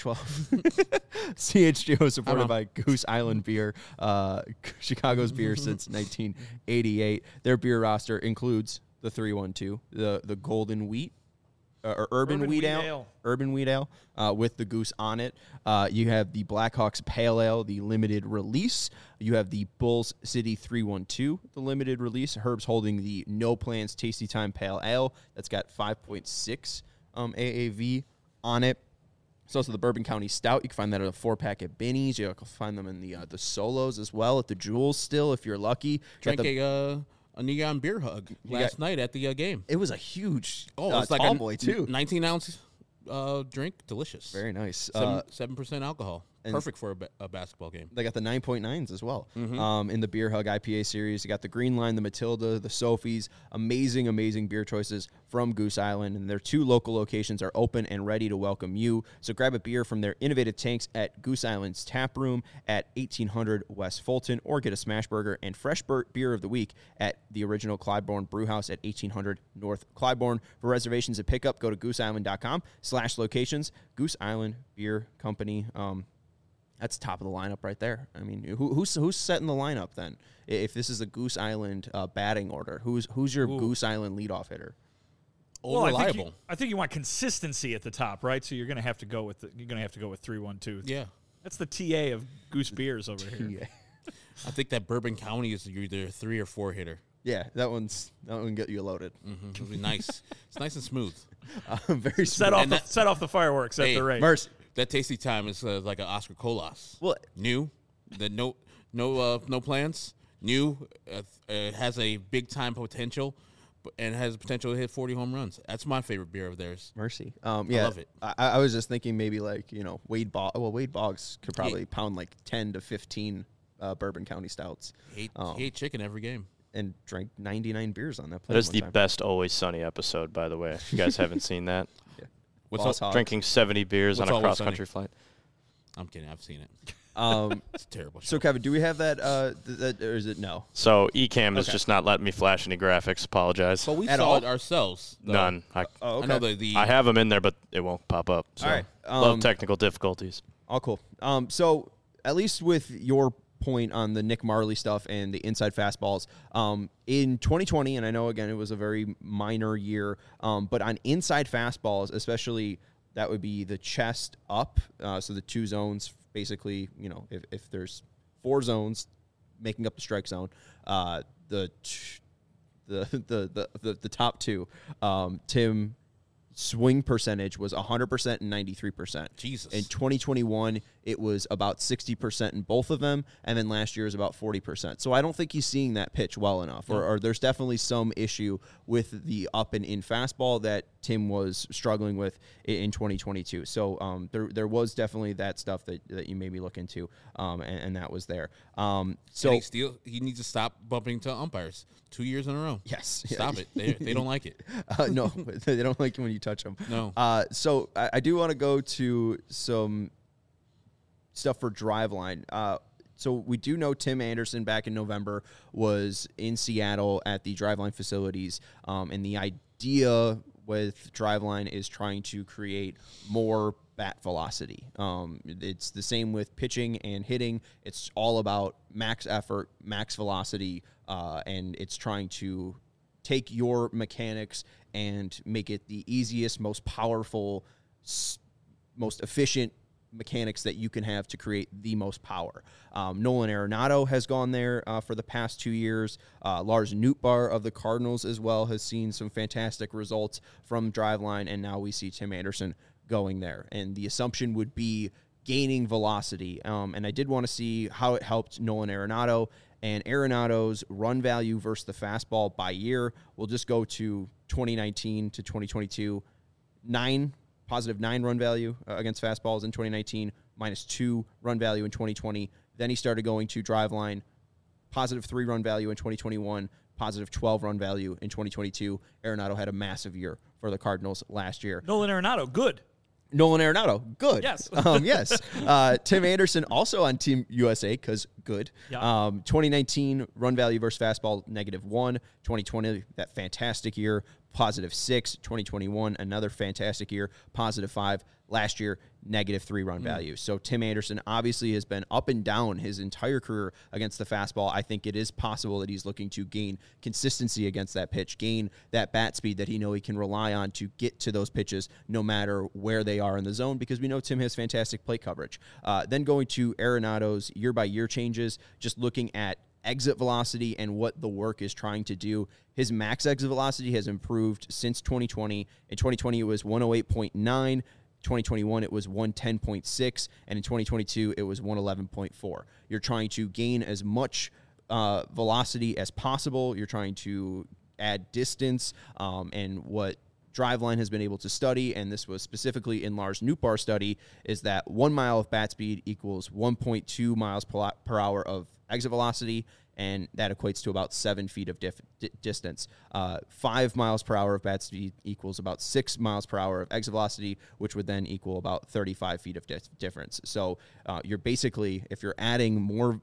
312. CHGO supported by Goose Island Beer, Chicago's beer since 1988. Their beer roster includes the 312, the Golden Wheat, or Urban Wheat Ale. Urban Wheat Ale with the Goose on it. You have the Blackhawks Pale Ale, the limited release. You have the Bulls City 312, the limited release. Herb's holding the No Plans Tasty Time Pale Ale. That's got 5.6 AAV on it. It's also the Bourbon County Stout. You can find that at a 4-pack at Binny's. You can find them in the Solos as well at the Jewels still, if you're lucky. Drank a Neon Beer Hug last night at the game. It was a huge it's like tall boy, too. 19-ounce drink. Delicious. Very nice. 7% alcohol. Perfect for a basketball game. They got the 9.9s as well in the Beer Hug IPA series. You got the Green Line, the Matilda, the Sophies. Amazing, amazing beer choices from Goose Island. And their 2 local locations are open and ready to welcome you. So grab a beer from their innovative tanks at Goose Island's Tap Room at 1800 West Fulton, or get a smash burger and fresh beer of the week at the original Clybourne Brewhouse at 1800 North Clybourne. For reservations and pickup, go to gooseisland.com/locations. Goose Island Beer Company. That's top of the lineup right there. I mean, who's setting the lineup then? If this is a Goose Island batting order, who's your Goose Island leadoff hitter? Reliable. I think you want consistency at the top, right? So you're going to have to go with 3-1-2. Yeah, that's the TA of Goose beers over here. I think that Bourbon County is either a 3 or 4 hitter. Yeah, that one get you loaded. Mm-hmm. It'll be nice. It's nice and smooth. Very set off the fireworks at the rate. Mercy. That Tasty Time is like an Oscar Colas. Well, new, no plans. New, has a big time potential, and has the potential to hit 40 home runs. That's my favorite beer of theirs. Mercy. I love it. I was just thinking maybe like Wade Boggs. Well, Wade Boggs could probably pound like 10 to 15 Bourbon County stouts. He ate chicken every game. And drank 99 beers on that plane. That is the best Always Sunny episode, by the way. If you guys haven't seen that. Yeah. What's drinking 70 beers on a cross-country flight. I'm kidding. I've seen it. It's a terrible show. So, Kevin, do we have that, or is it no? So Ecamm is Okay. just not letting me flash any graphics. Apologize. But we At saw all? it ourselves. though. None. Oh, okay. I know the I have them in there, but it won't pop up. So. All right. Love technical difficulties. All cool. So at least with your point on the Nick Marley stuff and the inside fastballs, in 2020, and I know, again, it was a very minor year, but on inside fastballs, especially that would be the chest up, so the two zones, basically, if there's 4 zones making up the strike zone, the top 2, Tim swing percentage was 100% and 93%. Jesus. In 2021, it was about 60% in both of them, and then last year was about 40%. So I don't think he's seeing that pitch well enough, or there's definitely some issue with the up and in fastball that Tim was struggling with in 2022. So there was definitely that stuff that you maybe look into, and that was there. So and he needs to stop bumping to umpires 2 years in a row. yes, Stop it. They don't like it. no, they don't like it when you touch them. No. So I do want to go to some stuff for Driveline. So we do know Tim Anderson back in November was in Seattle at the Driveline facilities, and the idea with Driveline is trying to create more bat velocity. It's the same with pitching and hitting. It's all about max effort, max velocity, and it's trying to take your mechanics and make it the easiest, most powerful, most efficient mechanics that you can have to create the most power. Nolan Arenado has gone there for the past 2 years. Lars Nootbaar of the Cardinals as well has seen some fantastic results from Driveline, and now we see Tim Anderson going there. And the assumption would be gaining velocity. And I did want to see how it helped Nolan Arenado, and Arenado's run value versus the fastball by year. We'll just go to 2019 to 2022. Positive 9 run value against fastballs in 2019, -2 run value in 2020. Then he started going to Driveline, positive 3 run value in 2021, positive 12 run value in 2022. Arenado had a massive year for the Cardinals last year. Nolan Arenado, good. Nolan Arenado, good. Yes. Yes. Tim Anderson, also on Team USA, because good. Yeah. 2019, run value versus fastball, -1. 2020, that fantastic year, +6. 2021, another fantastic year, +5. Last year, -3 run value. So Tim Anderson obviously has been up and down his entire career against the fastball. I think it is possible that he's looking to gain consistency against that pitch, gain that bat speed that he can rely on to get to those pitches no matter where they are in the zone, because we know Tim has fantastic plate coverage. Then going to Arenado's year-by-year changes, just looking at exit velocity and what the work is trying to do. His max exit velocity has improved since 2020. In 2020, it was 108.9. 2021, it was 110.6, and in 2022, it was 111.4. You're trying to gain as much velocity as possible. You're trying to add distance, and what Driveline has been able to study, and this was specifically in Lars Nootbaar's study, is that 1 mile of bat speed equals 1.2 miles per hour of exit velocity, and that equates to about 7 feet of distance. 5 miles per hour of bat speed equals about 6 miles per hour of exit velocity, which would then equal about 35 feet of difference. So you're basically, if you're adding more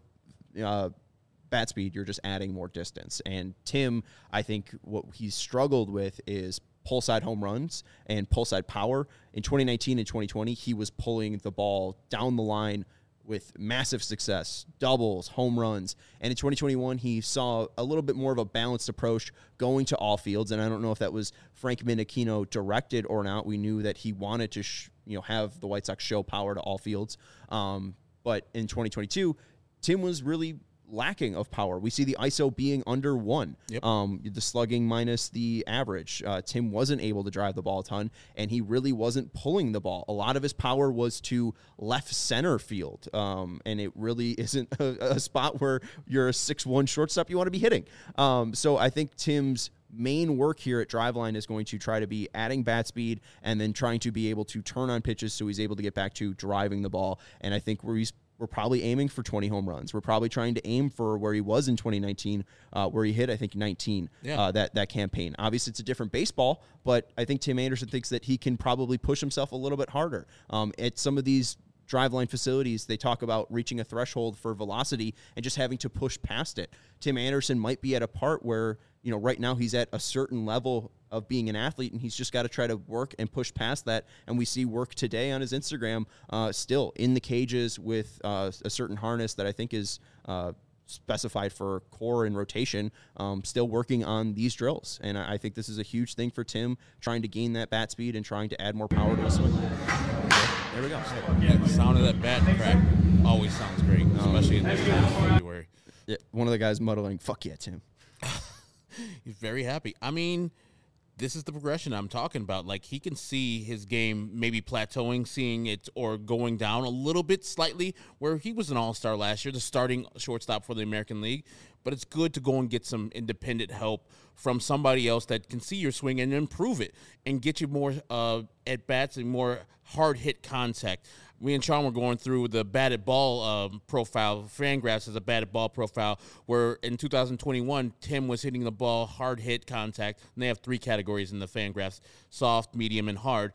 bat speed, you're just adding more distance. And Tim, I think what he's struggled with is pull side home runs and pull side power. In 2019 and 2020, he was pulling the ball down the line with massive success, doubles, home runs. And in 2021, he saw a little bit more of a balanced approach going to all fields. And I don't know if that was Frank Menechino directed or not. We knew that he wanted to have the White Sox show power to all fields. But in 2022, Tim was really lacking of power. We see the ISO being under 1. Yep. The slugging minus the average. Tim wasn't able to drive the ball a ton, and he really wasn't pulling the ball. A lot of his power was to left center field, and it really isn't a spot where you're a 6'1" shortstop you want to be hitting. So I think Tim's main work here at Driveline is going to try to be adding bat speed and then trying to be able to turn on pitches so he's able to get back to driving the ball. And I think we're probably aiming for 20 home runs. We're probably trying to aim for where he was in 2019, where he hit, I think, 19, that campaign. Obviously, it's a different baseball, but I think Tim Anderson thinks that he can probably push himself a little bit harder. At some of these driveline facilities, they talk about reaching a threshold for velocity and just having to push past it. Tim Anderson might be at a part where, right now he's at a certain level of being an athlete, and he's just got to try to work and push past that. And we see work today on his Instagram, still in the cages with a certain harness that I think is specified for core and rotation, still working on these drills. And I think this is a huge thing for Tim, trying to gain that bat speed and trying to add more power to his swing. There we go. Yeah, the sound of that bat crack always sounds great, especially in this time of February. Yeah, one of the guys muttering, "Fuck yeah, Tim." He's very happy. I mean, this is the progression I'm talking about. Like, he can see his game maybe plateauing, seeing it, or going down a little bit slightly, where he was an all-star last year, the starting shortstop for the American League. But it's good to go and get some independent help from somebody else that can see your swing and improve it and get you more at-bats and more hard-hit contact. Me and Sean were going through the batted ball profile. Fangraphs has a batted ball profile where in 2021, Tim was hitting the ball hard hit contact. And they have 3 categories in the Fangraphs: soft, medium, and hard.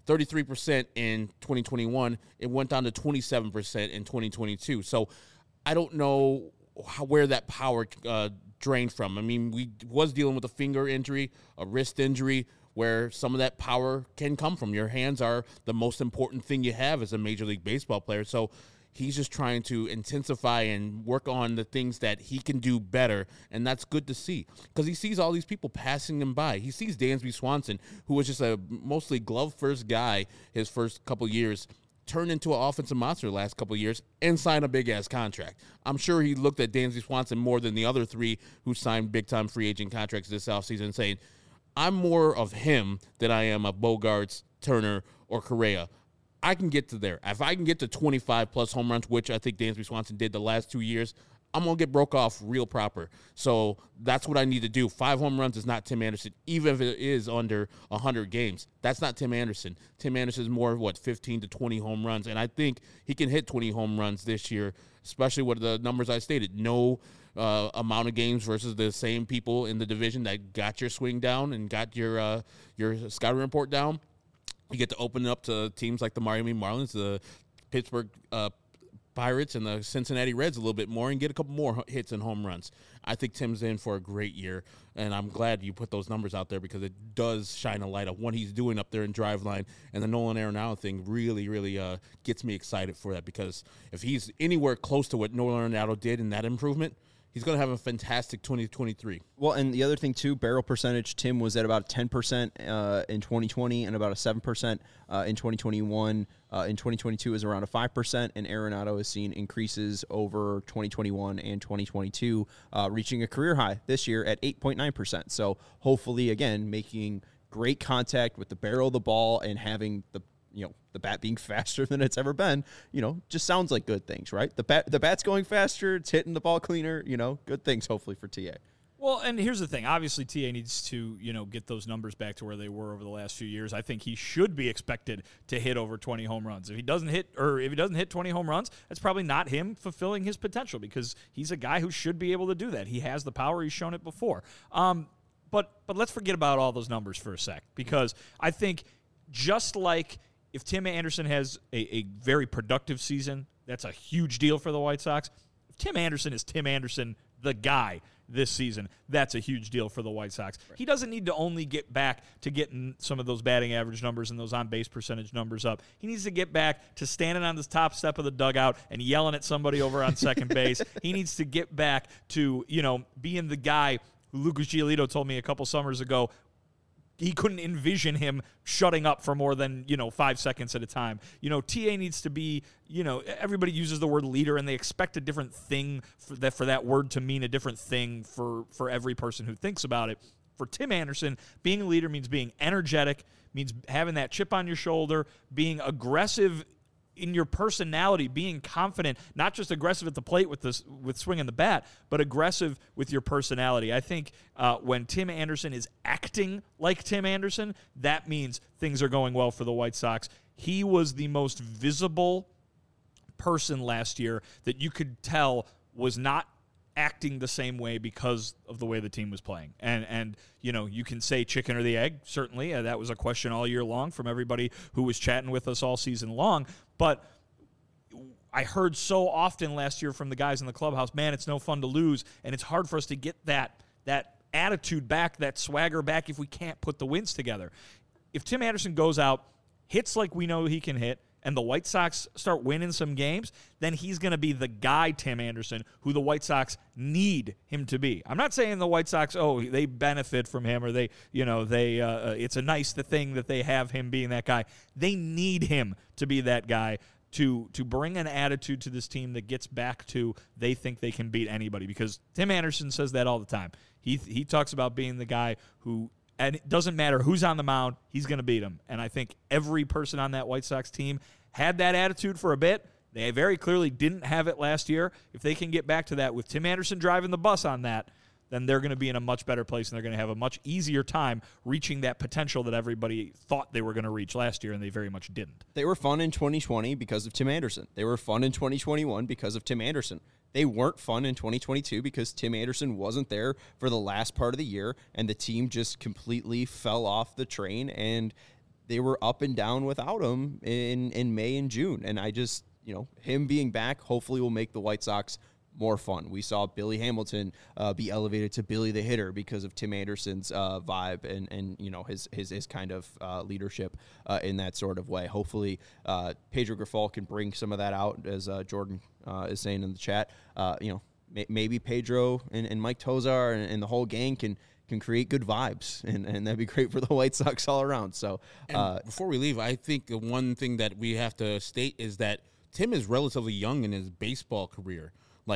33% in 2021. It went down to 27% in 2022. So I don't know where that power drained from. I mean, we was dealing with a finger injury, a wrist injury, where some of that power can come from. Your hands are the most important thing you have as a Major League Baseball player. So he's just trying to intensify and work on the things that he can do better, and that's good to see because he sees all these people passing him by. He sees Dansby Swanson, who was just a mostly glove-first guy his first couple years, turn into an offensive monster the last couple of years and sign a big-ass contract. I'm sure he looked at Dansby Swanson more than the other 3 who signed big-time free agent contracts this offseason saying, I'm more of him than I am of Bogarts, Turner, or Correa. I can get to there. If I can get to 25-plus home runs, which I think Dansby Swanson did the last 2 years, I'm going to get broke off real proper. So that's what I need to do. 5 home runs is not Tim Anderson, even if it is under 100 games. That's not Tim Anderson. Tim Anderson is more, 15 to 20 home runs, and I think he can hit 20 home runs this year, especially with the numbers I stated. No amount of games versus the same people in the division that got your swing down and got your scouting report down. You get to open it up to teams like the Miami Marlins, the Pittsburgh Pirates, and the Cincinnati Reds a little bit more and get a couple more hits and home runs. I think Tim's in for a great year, and I'm glad you put those numbers out there because it does shine a light on what he's doing up there in Driveline, and the Nolan Arenado thing really, really gets me excited for that because if he's anywhere close to what Nolan Arenado did in that improvement, he's going to have a fantastic 2023. Well, and the other thing, too, barrel percentage, Tim was at about 10% in 2020 and about a 7% in 2021. In 2022 is around a 5%, and Arenado has seen increases over 2021 and 2022, reaching a career high this year at 8.9%. So hopefully, again, making great contact with the barrel of the ball and having the bat being faster than it's ever been, just sounds like good things, right? The bat's going faster, it's hitting the ball cleaner, good things hopefully for TA. Well, and here's the thing. Obviously, TA needs to, get those numbers back to where they were over the last few years. I think he should be expected to hit over 20 home runs. If he doesn't hit 20 home runs, that's probably not him fulfilling his potential because he's a guy who should be able to do that. He has the power. He's shown it before. But let's forget about all those numbers for a sec because I think just like if Tim Anderson has a very productive season, that's a huge deal for the White Sox. If Tim Anderson is Tim Anderson, the guy, this season, that's a huge deal for the White Sox. Right. He doesn't need to only get back to getting some of those batting average numbers and those on-base percentage numbers up. He needs to get back to standing on the top step of the dugout and yelling at somebody over on second base. He needs to get back to, being the guy who Lucas Giolito told me a couple summers ago he couldn't envision him shutting up for more than, 5 seconds at a time. TA needs to be, everybody uses the word leader and they expect a different thing for that word to mean a different thing for every person who thinks about it. For Tim Anderson, being a leader means being energetic, means having that chip on your shoulder, being aggressive in your personality, being confident, not just aggressive at the plate with swinging the bat, but aggressive with your personality. I think when Tim Anderson is acting like Tim Anderson, that means things are going well for the White Sox. He was the most visible person last year that you could tell was not acting the same way because of the way the team was playing. And you can say chicken or the egg, certainly. That was a question all year long from everybody who was chatting with us all season long. But I heard so often last year from the guys in the clubhouse, man, it's no fun to lose, and it's hard for us to get that attitude back, that swagger back if we can't put the wins together. If Tim Anderson goes out, hits like we know he can hit, and the White Sox start winning some games, then he's going to be the guy, Tim Anderson, who the White Sox need him to be. I'm not saying the White Sox, they benefit from him, or it's a nice thing that they have him being that guy. They need him to be that guy to bring an attitude to this team that gets back to they think they can beat anybody, because Tim Anderson says that all the time. He talks about being the guy who, and it doesn't matter who's on the mound, he's going to beat him. And I think every person on that White Sox team had that attitude for a bit. They very clearly didn't have it last year. If they can get back to that with Tim Anderson driving the bus on that, then they're going to be in a much better place, and they're going to have a much easier time reaching that potential that everybody thought they were going to reach last year, and they very much didn't. They were fun in 2020 because of Tim Anderson. They were fun in 2021 because of Tim Anderson. They weren't fun in 2022 because Tim Anderson wasn't there for the last part of the year, and the team just completely fell off the train, and they were up and down without him in May and June. And I just, him being back hopefully will make the White Sox more fun. We saw Billy Hamilton be elevated to Billy the Hitter because of Tim Anderson's vibe and his kind of leadership in that sort of way. Hopefully, Pedro Grifol can bring some of that out, as Jordan is saying in the chat. Maybe Pedro and Mike Tozar and the whole gang can create good vibes, and that'd be great for the White Sox all around. So, before we leave, I think the one thing that we have to state is that Tim is relatively young in his baseball career.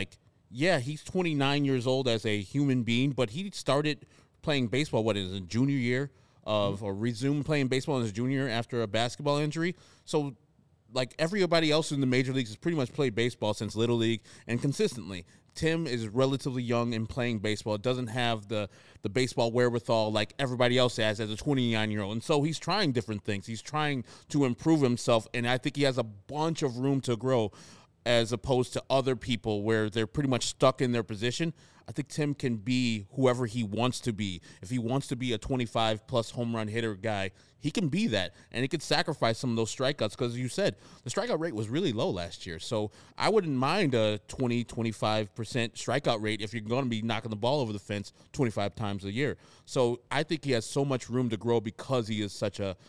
He's 29 years old as a human being, but he started playing baseball, a junior year or resumed playing baseball in his junior year after a basketball injury. So, everybody else in the major leagues has pretty much played baseball since Little League and consistently. Tim is relatively young in playing baseball. Doesn't have the baseball wherewithal like everybody else has as a 29-year-old. And so he's trying different things. He's trying to improve himself, and I think he has a bunch of room to grow as opposed to other people where they're pretty much stuck in their position. I think Tim can be whoever he wants to be. If he wants to be a 25-plus home run hitter guy, he can be that, and he could sacrifice some of those strikeouts because, you said, the strikeout rate was really low last year. So I wouldn't mind a 20-25% strikeout rate if you're going to be knocking the ball over the fence 25 times a year. So I think he has so much room to grow because he is such a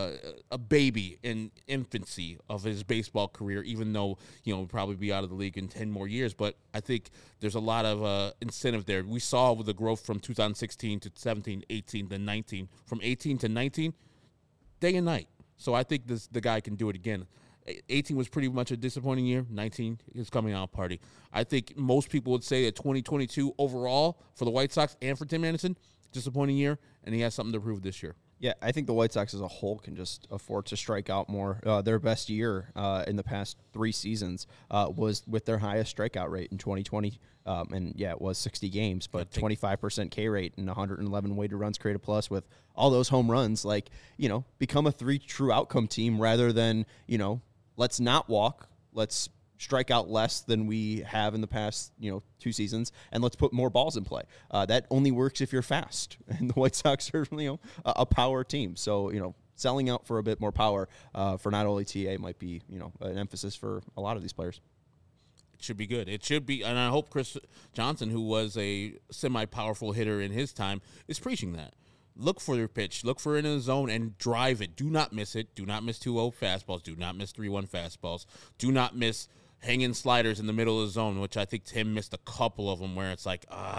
baby in infancy of his baseball career, even though, he'll probably be out of the league in 10 more years. But I think there's a lot of incentive there. We saw with the growth from 2016 to 17, 18 to 19, from 18 to 19, day and night. So I think the guy can do it again. 18 was pretty much a disappointing year. 19 is coming out party. I think most people would say that 2022 overall for the White Sox and for Tim Anderson, disappointing year, and he has something to prove this year. Yeah, I think the White Sox as a whole can just afford to strike out more. Their best year in the past 3 seasons was with their highest strikeout rate in 2020. It was 60 games, but 25% K rate and 111 weighted runs created plus with all those home runs. Become a 3 true outcome team rather than, let's not walk, let's strike out less than we have in the past, 2 seasons, and let's put more balls in play. That only works if you're fast, and the White Sox are, a power team. So, selling out for a bit more power for not only TA might be, an emphasis for a lot of these players. It should be good. It should be, and I hope Chris Johnson, who was a semi-powerful hitter in his time, is preaching that. Look for your pitch. Look for it in the zone and drive it. Do not miss it. Do not miss 2-0 fastballs. Do not miss 3-1 fastballs. Do not miss hanging sliders in the middle of the zone, which I think Tim missed a couple of them where it's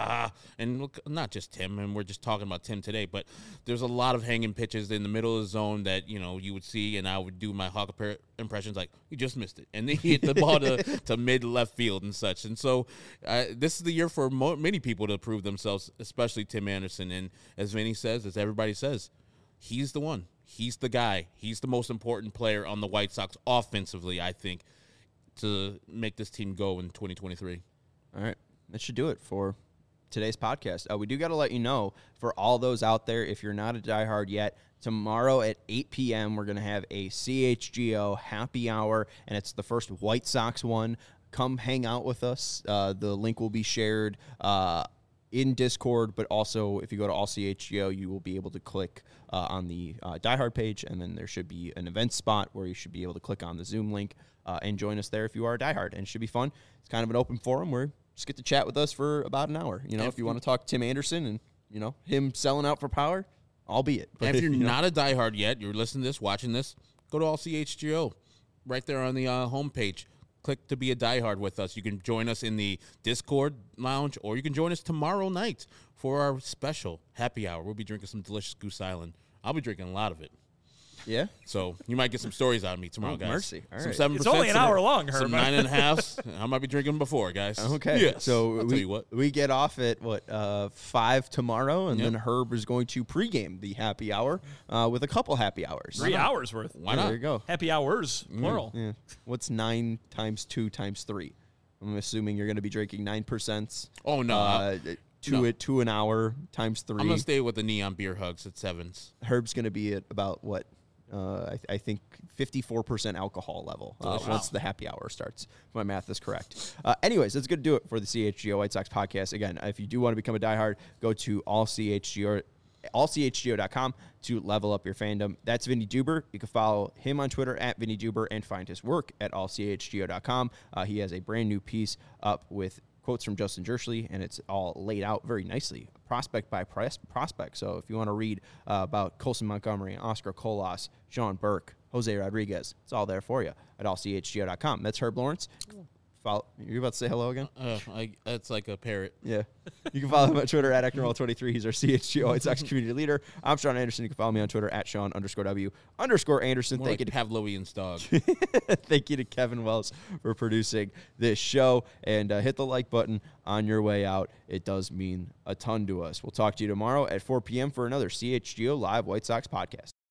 and look, not just Tim, and we're just talking about Tim today, but there's a lot of hanging pitches in the middle of the zone that, you would see, and I would do my Hawk impressions like, you just missed it, and then he hit the ball to mid left field and such. And so this is the year for many people to prove themselves, especially Tim Anderson. And as Vinny says, as everybody says, he's the one. He's the guy. He's the most important player on the White Sox offensively, I think, to make this team go in 2023. All right. That should do it for today's podcast. We do got to let you know, for all those out there, if you're not a diehard yet, tomorrow at 8 p.m., we're going to have a CHGO happy hour, and it's the first White Sox one. Come hang out with us. The link will be shared in Discord, but also if you go to All CHGO, you will be able to click on the diehard page, and then there should be an event spot where you should be able to click on the Zoom link. and join us there if you are a diehard. And it should be fun. It's kind of an open forum where you just get to chat with us for about an hour. If you want to talk Tim Anderson and, him selling out for power, albeit. But if you're not a diehard yet, you're listening to this, watching this, go to All CHGO right there on the homepage. Click to be a diehard with us. You can join us in the Discord lounge, or you can join us tomorrow night for our special happy hour. We'll be drinking some delicious Goose Island. I'll be drinking a lot of it. Yeah? So you might get some stories out of me tomorrow, guys. Mercy. All right. Some 7%. It's only an hour long, Herb. Some 9.5. I might be drinking before, guys. Okay. Yes. So I'll tell you what. we get off at 5 tomorrow, and then Herb is going to pregame the happy hour with a couple happy hours. 3 hours worth. Why not? There you go. Happy hours, plural. Yeah. What's 9 times 2 times 3? I'm assuming you're going to be drinking 9%. Oh, no. Two an hour times 3. I'm going to stay with the neon beer hugs at 7s. Herb's going to be at about what? I think 54% alcohol level once the happy hour starts, if my math is correct. Anyways, that's going to do it for the CHGO White Sox podcast. Again, if you do want to become a diehard, go to allchgo.com to level up your fandom. That's Vinny Duber. You can follow him on Twitter at Vinny Duber and find his work at allchgo.com. He has a brand new piece up with quotes from Justin Jerschley, and it's all laid out very nicely, prospect by prospect. So if you want to read about Colson Montgomery, Oscar Colas, Sean Burke, Jose Rodriguez, it's all there for you at allchgo.com. That's Herb Lawrence. You're about to say hello again? That's like a parrot. Yeah. You can follow him on Twitter at ActonRoll23. He's our CHGO White Sox community leader. I'm Sean Anderson. You can follow me on Twitter at Sean_W_Anderson. Thank you to Pavlovian's dog. Thank you to Kevin Wells for producing this show. And hit the like button on your way out. It does mean a ton to us. We'll talk to you tomorrow at 4 p.m. for another CHGO Live White Sox podcast.